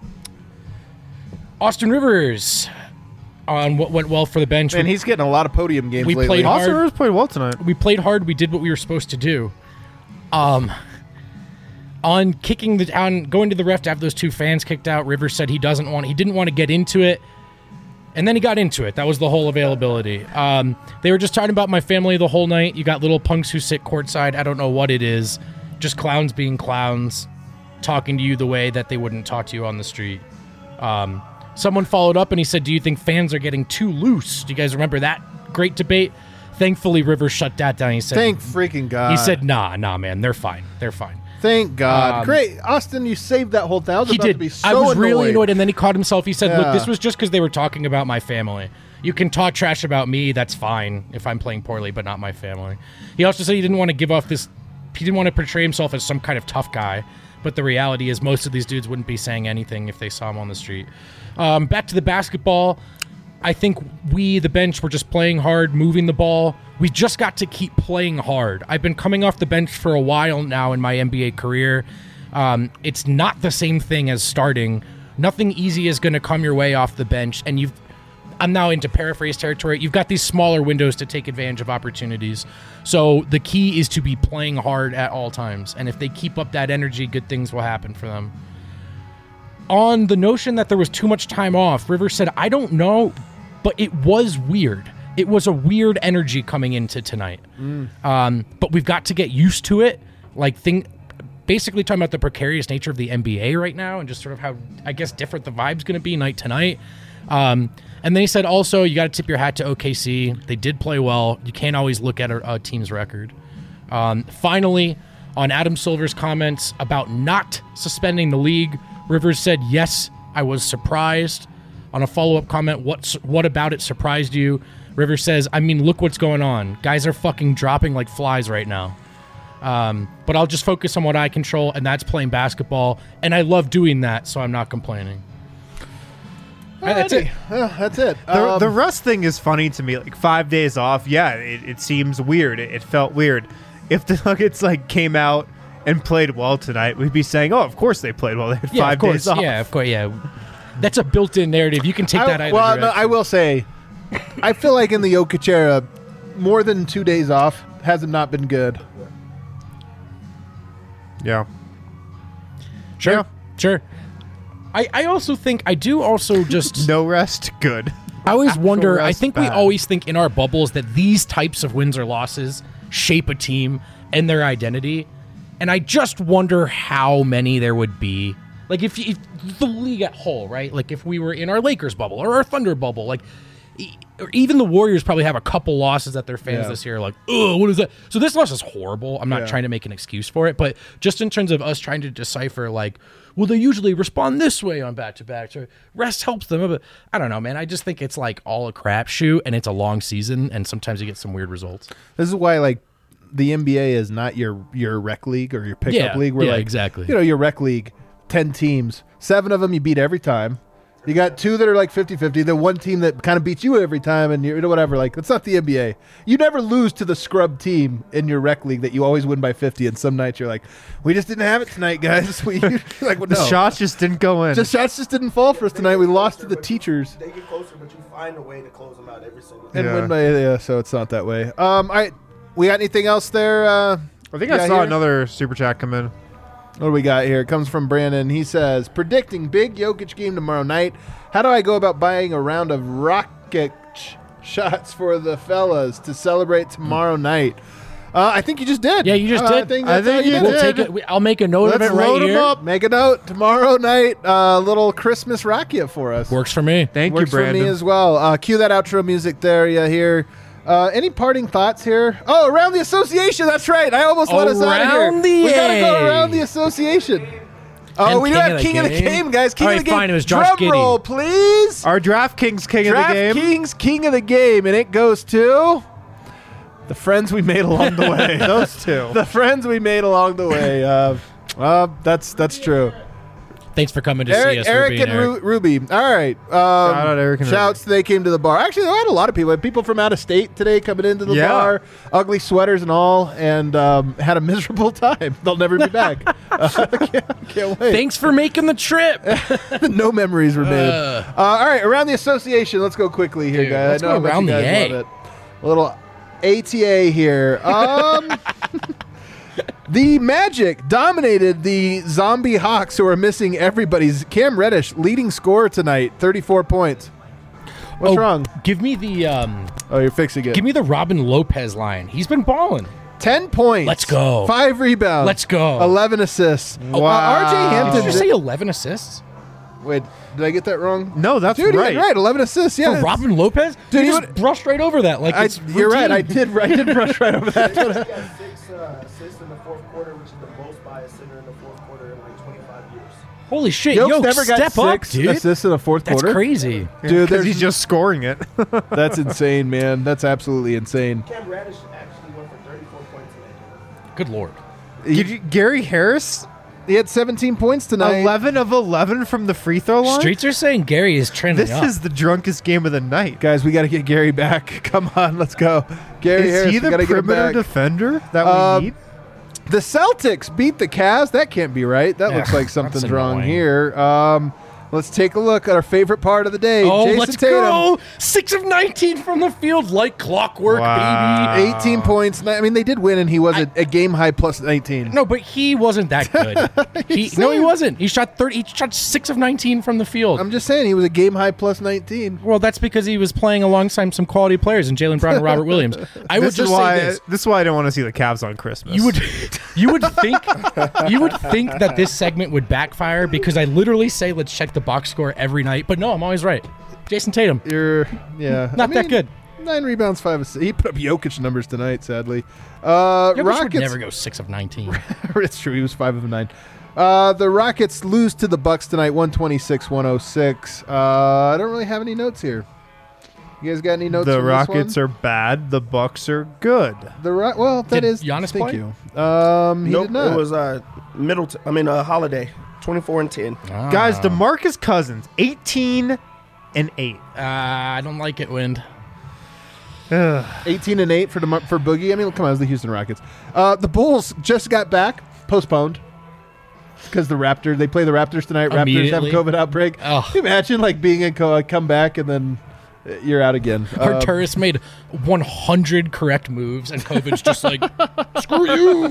Rivers on what went well for the bench. And he's getting a lot of podium games lately. Played hard. Austin Rivers played well tonight. We played hard. We did what we were supposed to do. On going to the ref to have those 2 fans kicked out, Rivers said he didn't want to get into it. And then he got into it. That was the whole availability. They were just talking about my family the whole night. You got little punks who sit courtside. I don't know what it is. Just clowns being clowns, talking to you the way that they wouldn't talk to you on the street. Someone followed up and he said, "Do you think fans are getting too loose?" Do you guys remember that great debate? Thankfully, Rivers shut that down. He said, "Thank freaking God." He said, "Nah, man, they're fine. They're fine." Thank God. Great. Austin, you saved that whole thing. He did. I was really annoyed, and then he caught himself. He said, "Look, this was just because they were talking about my family. You can talk trash about me. That's fine if I'm playing poorly, but not my family." He also said he didn't want to give off this. He didn't want to portray himself as some kind of tough guy, but the reality is most of these dudes wouldn't be saying anything if they saw him on the street. Back to the basketball. I think we, the bench, were just playing hard, moving the ball. We just got to keep playing hard. I've been coming off the bench for a while now in my NBA career. It's not the same thing as starting. Nothing easy is going to come your way off the bench, and I'm now into paraphrase territory. You've got these smaller windows to take advantage of opportunities. So the key is to be playing hard at all times, and if they keep up that energy, good things will happen for them. On the notion that there was too much time off, Rivers said, "I don't know, but it was weird. It was a weird energy coming into tonight. But we've got to get used to it. Basically talking about the precarious nature of the NBA right now and just sort of how, I guess, different the vibe's going to be night to night." And then he said also, you got to tip your hat to OKC. They did play well. You can't always look at a team's record. Finally, on Adam Silver's comments about not suspending the league, Rivers said, "Yes, I was surprised." On a follow-up comment, what about it surprised you? Rivers says, "I mean, look what's going on. Guys are fucking dropping like flies right now. But I'll just focus on what I control, and that's playing basketball. And I love doing that, so I'm not complaining." That's it. That's it. The rest thing is funny to me. 5 days off, yeah, it seems weird. It felt weird. If the Nuggets came out and played well tonight, we'd be saying, "Oh, of course they played well. They had 5 days off." Yeah, of course. Yeah, that's a built-in narrative. You can take that either direction. No, I will say, I feel like in the Jokic era, more than 2 days off has not been good. Yeah. Sure. I also think, I do also just... No rest, good. I always wonder, rest, I think bad. we always think in our bubbles that these types of wins or losses shape a team and their identity. And I just wonder how many there would be. If the league at whole, right? If we were in our Lakers bubble or our Thunder bubble, or even the Warriors probably have a couple losses that their fans this year are like, "Oh, what is that?" So this loss is horrible. I'm not trying to make an excuse for it, but just in terms of us trying to decipher, well, they usually respond this way on back-to-back. So rest helps them. But I don't know, man. I just think it's all a crapshoot, and it's a long season, and sometimes you get some weird results. This is why, the NBA is not your rec league or your pickup league. Where exactly. Your rec league, 10 teams, 7 of them you beat every time. You got 2 that are 50-50, the one team that kind of beats you every time, and you're whatever. That's not the NBA. You never lose to the scrub team in your rec league that you always win by 50, and some nights you're like, "We just didn't have it tonight, guys." The shots just didn't go in. The shots just didn't fall for us tonight. We lost to the teachers. They get closer, but you find a way to close them out every single And time. win by, so it's not that way. All right. We got anything else there? I think I saw here? another super chat come in. What do we got here? It comes from Brandon. He says, "Predicting big Jokic game tomorrow night. How do I go about buying a round of rocket shots for the fellas to celebrate tomorrow night?" I think you just did. Yeah, you just did. I think you We'll did. take it. I'll make a note of it right load here. them up. Make a note. Tomorrow night, little Christmas racket for us. Works for me. Thank Works you, Brandon. for me as well. Cue that outro music there. Yeah, here. Any parting thoughts here? Oh, around the association. That's right. I almost let us out of here. We gotta go around the association. Oh, And we do have King of the Game, guys. King of the Game. Fine, it was Josh Drum roll, please. Our DraftKings King of the Game. DraftKings King of the Game, and it goes to the friends we made along the way. Those two. The friends we made along the way. That's true. Thanks for coming to see us. Eric and Ruby. All right. Shout out Eric and Shouts they came to the bar. Actually, I had a lot of people. I had people from out of state today coming into the bar, ugly sweaters and all, and had a miserable time. They'll never be back. Can't wait. Thanks for making the trip. No memories were made. All right, around the association. Let's go quickly here, guys. Let's go around the A. Love it. A little ATA here. The Magic dominated the Zombie Hawks, who are missing everybody's. Cam Reddish leading scorer tonight, 34 points. What's wrong? Give me the Oh, you're fixing it. give me the Robin Lopez line. He's been balling. 10 points. Let's go. 5 rebounds. Let's go. 11 assists. Wow. RJ Hampton. Did you say 11 assists? Wait, did I get that wrong? No, that's Dude, right. you're right. 11 assists. Yeah. For Robin Lopez? Dude, you he just brushed right over that. Like it's you're right. I routine. did brush right over that. He got 6 assists in the fourth quarter, which is the most by a center in the fourth quarter in like 25 years. Holy shit. Yoke's Yo, never got step up, 6 dude. assists in the fourth That's quarter. crazy. Dude, Because he's just scoring it. that's insane, man. That's absolutely insane. Cam Reddish actually went for 34 points today. Good lord. Gary Harris, He had 17 points tonight. 11 of 11 from the free throw line. Streets are saying Gary is trending This up. is the drunkest game of the night. Guys, we got to get Gary back. Come on, let's go. Gary Is Harris, he we the got to get him perimeter back. defender that we need? The Celtics beat the Cavs. That can't be right. That looks like something's that's wrong annoying. here. Let's take a look at our favorite part of the day. Oh, Jason let's Tatum. go! 6 of 19 from the field, like clockwork, Wow. baby. 18 points. I mean, they did win, and he was a game high plus 19. No, but he wasn't that good. he wasn't. He shot 30. He shot 6 of 19 from the field. I'm just saying he was a game high plus 19. Well, that's because he was playing alongside some quality players in Jaylen Brown and Robert Williams. I would just say this. This is why I don't want to see the Cavs on Christmas. You would think that this segment would backfire because I literally say let's check the box score every night, but no, I'm always right. Jason Tatum, Not that good. 9 rebounds, 5 assists. He put up Jokic numbers tonight, sadly. Jokic would Rockets. never go 6 of 19. It's true. He was 5 of 9. The Rockets lose to the Bucks tonight, 126-106. I don't really have any notes here. You guys got any notes? The from Rockets this one? are bad. The Bucks are good. That Did is. Giannis thank play? you. He Nope, did not. it was Holiday, 24 and 10. Guys, DeMarcus Cousins, 18 and 8. I don't like it, Wind. 18 and 8 for Boogie. I mean, come on, it was the Houston Rockets. The Bulls just got back, postponed. Because they play the Raptors tonight. Raptors have a Immediately. COVID outbreak. Oh. Can you imagine like being in come back and then you're out again. Arturis made 100 correct moves, and COVID's just like, screw you.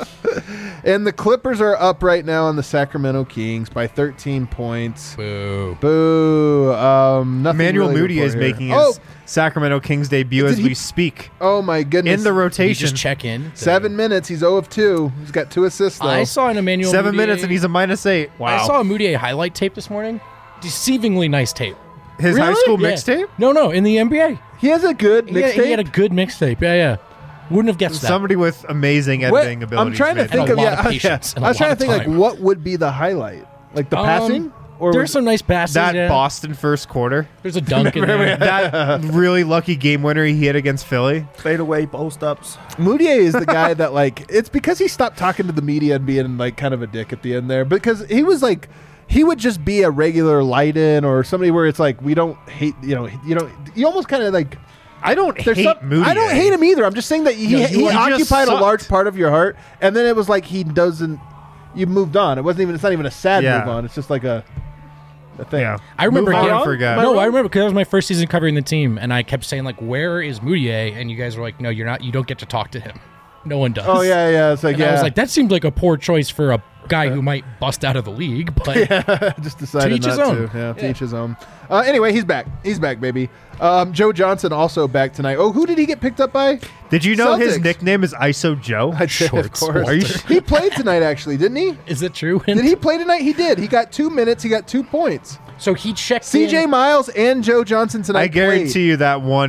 And the Clippers are up right now on the Sacramento Kings by 13 points. Boo. Boo. Nothing Emmanuel really to Mudiay is report here. making his Sacramento Kings debut as Did he- we speak. Oh my goodness. In the Did you rotation. just check in? 7 minutes. He's 0 of 2. He's got 2 assists though. I saw an Emmanuel 7 Mudiay- minutes and he's a -8. Wow. I saw a Moutier highlight tape this morning. Deceivingly nice tape. His high Really? school Yeah. mixtape? No, in the NBA. He has a good He had a mixtape. good mixtape. Yeah. Wouldn't have guessed that. Somebody with amazing What- editing abilities. I'm trying to made think it. And of a lot of yeah. patience and I a was trying lot to of think like time. what would be the highlight, like the passing, or There's some nice passes. that yeah. Boston first quarter. There's a dunk in Remember there. that really lucky game winner he hit against Philly? Fade away, post ups. Moutier is the guy that like it's because he stopped talking to the media and being like kind of a dick at the end there because he was like he would just be a regular light-in or somebody where it's like we don't hate you almost kind of like I don't hate Moody. I don't hate him either. I'm just saying that he just occupied a sucked. large part of your heart and then it was like he doesn't you moved on. It's not even a sad Yeah. move on. It's just like a thing. Yeah. I remember Move on, getting- forget. No, I remember because that was my first season covering the team, and I kept saying like, "Where is Moutier?" And you guys were like, "No, you're not. You don't get to talk to him. No one does." Oh yeah. It's like And I was like, "That seemed like a poor choice for a guy who might bust out of the league." But just decided To each his not own. to. Yeah, to each his own. Anyway, he's back. He's back, baby. Joe Johnson also back tonight. Oh, who did he get picked up by? Did you know his Celtics. nickname is ISO Joe? I'd say, Short of course. Are you He played tonight, actually, didn't he? is it true? Did he play tonight? He did. He got 2 minutes. He got 2 points. So he checked. CJ in. Miles and Joe Johnson tonight. I guarantee played. you that one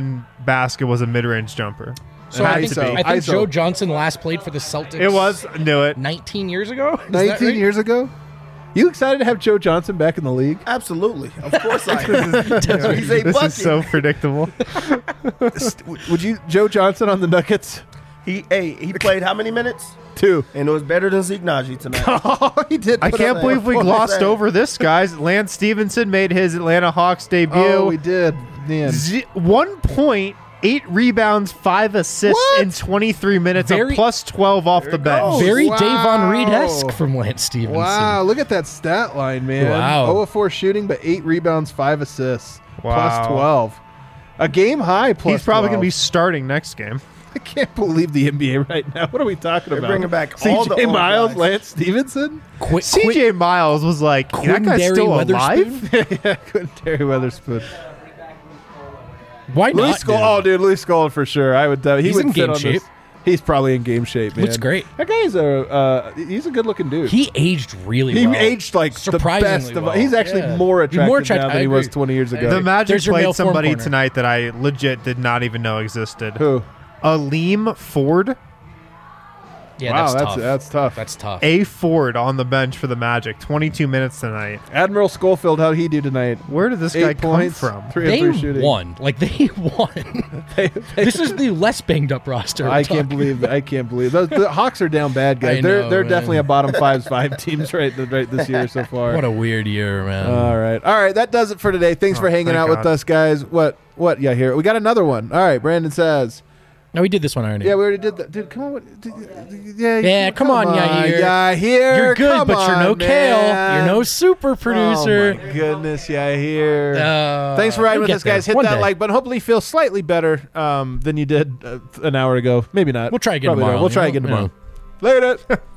basket was a mid-range jumper. So I think Joe Johnson last played for the Celtics. It was. Knew it. 19 years ago? 19 years ago? You excited to have Joe Johnson back in the league? Absolutely. Of course I am. He's a This bucket. is so predictable. Would you, Joe Johnson on the Nuggets? He played how many minutes? 2. And it was better than Zeke Naji tonight. Oh, he did. I can't believe we glossed over this, guys. Lance Stevenson made his Atlanta Hawks debut. Oh, we did. Man. 1 point, 8 rebounds, 5 assists in 23 minutes, a plus 12 off the bench. Very Davon Reed-esque from Lance Stevenson. Wow, look at that stat line, man. Wow. 0 of 4 shooting, but 8 rebounds, 5 assists. Wow. Plus 12. A game high plus He's probably going to 12. be starting next game. I can't believe the NBA right now. What are we talking They're about? bringing back all the CJ old Miles, guys. Lance Stevenson? CJ Miles was like, that guy's still alive? Yeah, Terry Weatherspoon. Why Louis not? Scola. Oh, dude, Louis Scola for sure. I would. He He's would in fit game on shape. this. He's probably in game shape, man. Looks great. That guy's he's a good-looking dude. He aged really He well. aged like surprisingly the best of. well. He's actually Yeah. more attractive, More attractive. now than I he was agree. 20 years ago. The Magic There's your male played form somebody corner. tonight that I legit did not even know existed. Who? Aleem Ford. Yeah, Wow, that's tough. that's tough. That's tough. A Ford on the bench for the Magic. 22 minutes tonight. Admiral Schofield, how'd he do tonight? Where did this guy 8 come points, from? 3 of They 3 shooting. won. Like, they won. This is the less banged up roster. I can't believe the Hawks are down bad, guys. I They're know, man. definitely a bottom 5 teams right this year so far. What a weird year, man. All right. That does it for today. Thanks for hanging thank out with God. us, guys. What? Yeah, here we got another one. All right, Brandon says. No, we did this one already. Yeah, we already did that. Dude, come on. Yeah, come on, Yair. Yair. You're good, come but you're no on, Kale. man. You're no super producer. Oh my goodness, Yair. Thanks for riding you'll with get us, guys. there. Hit One that day. like button. Hopefully, you feel slightly better than you did an hour ago. Maybe not. We'll try again Probably tomorrow. not. We'll try You again know? tomorrow. Later.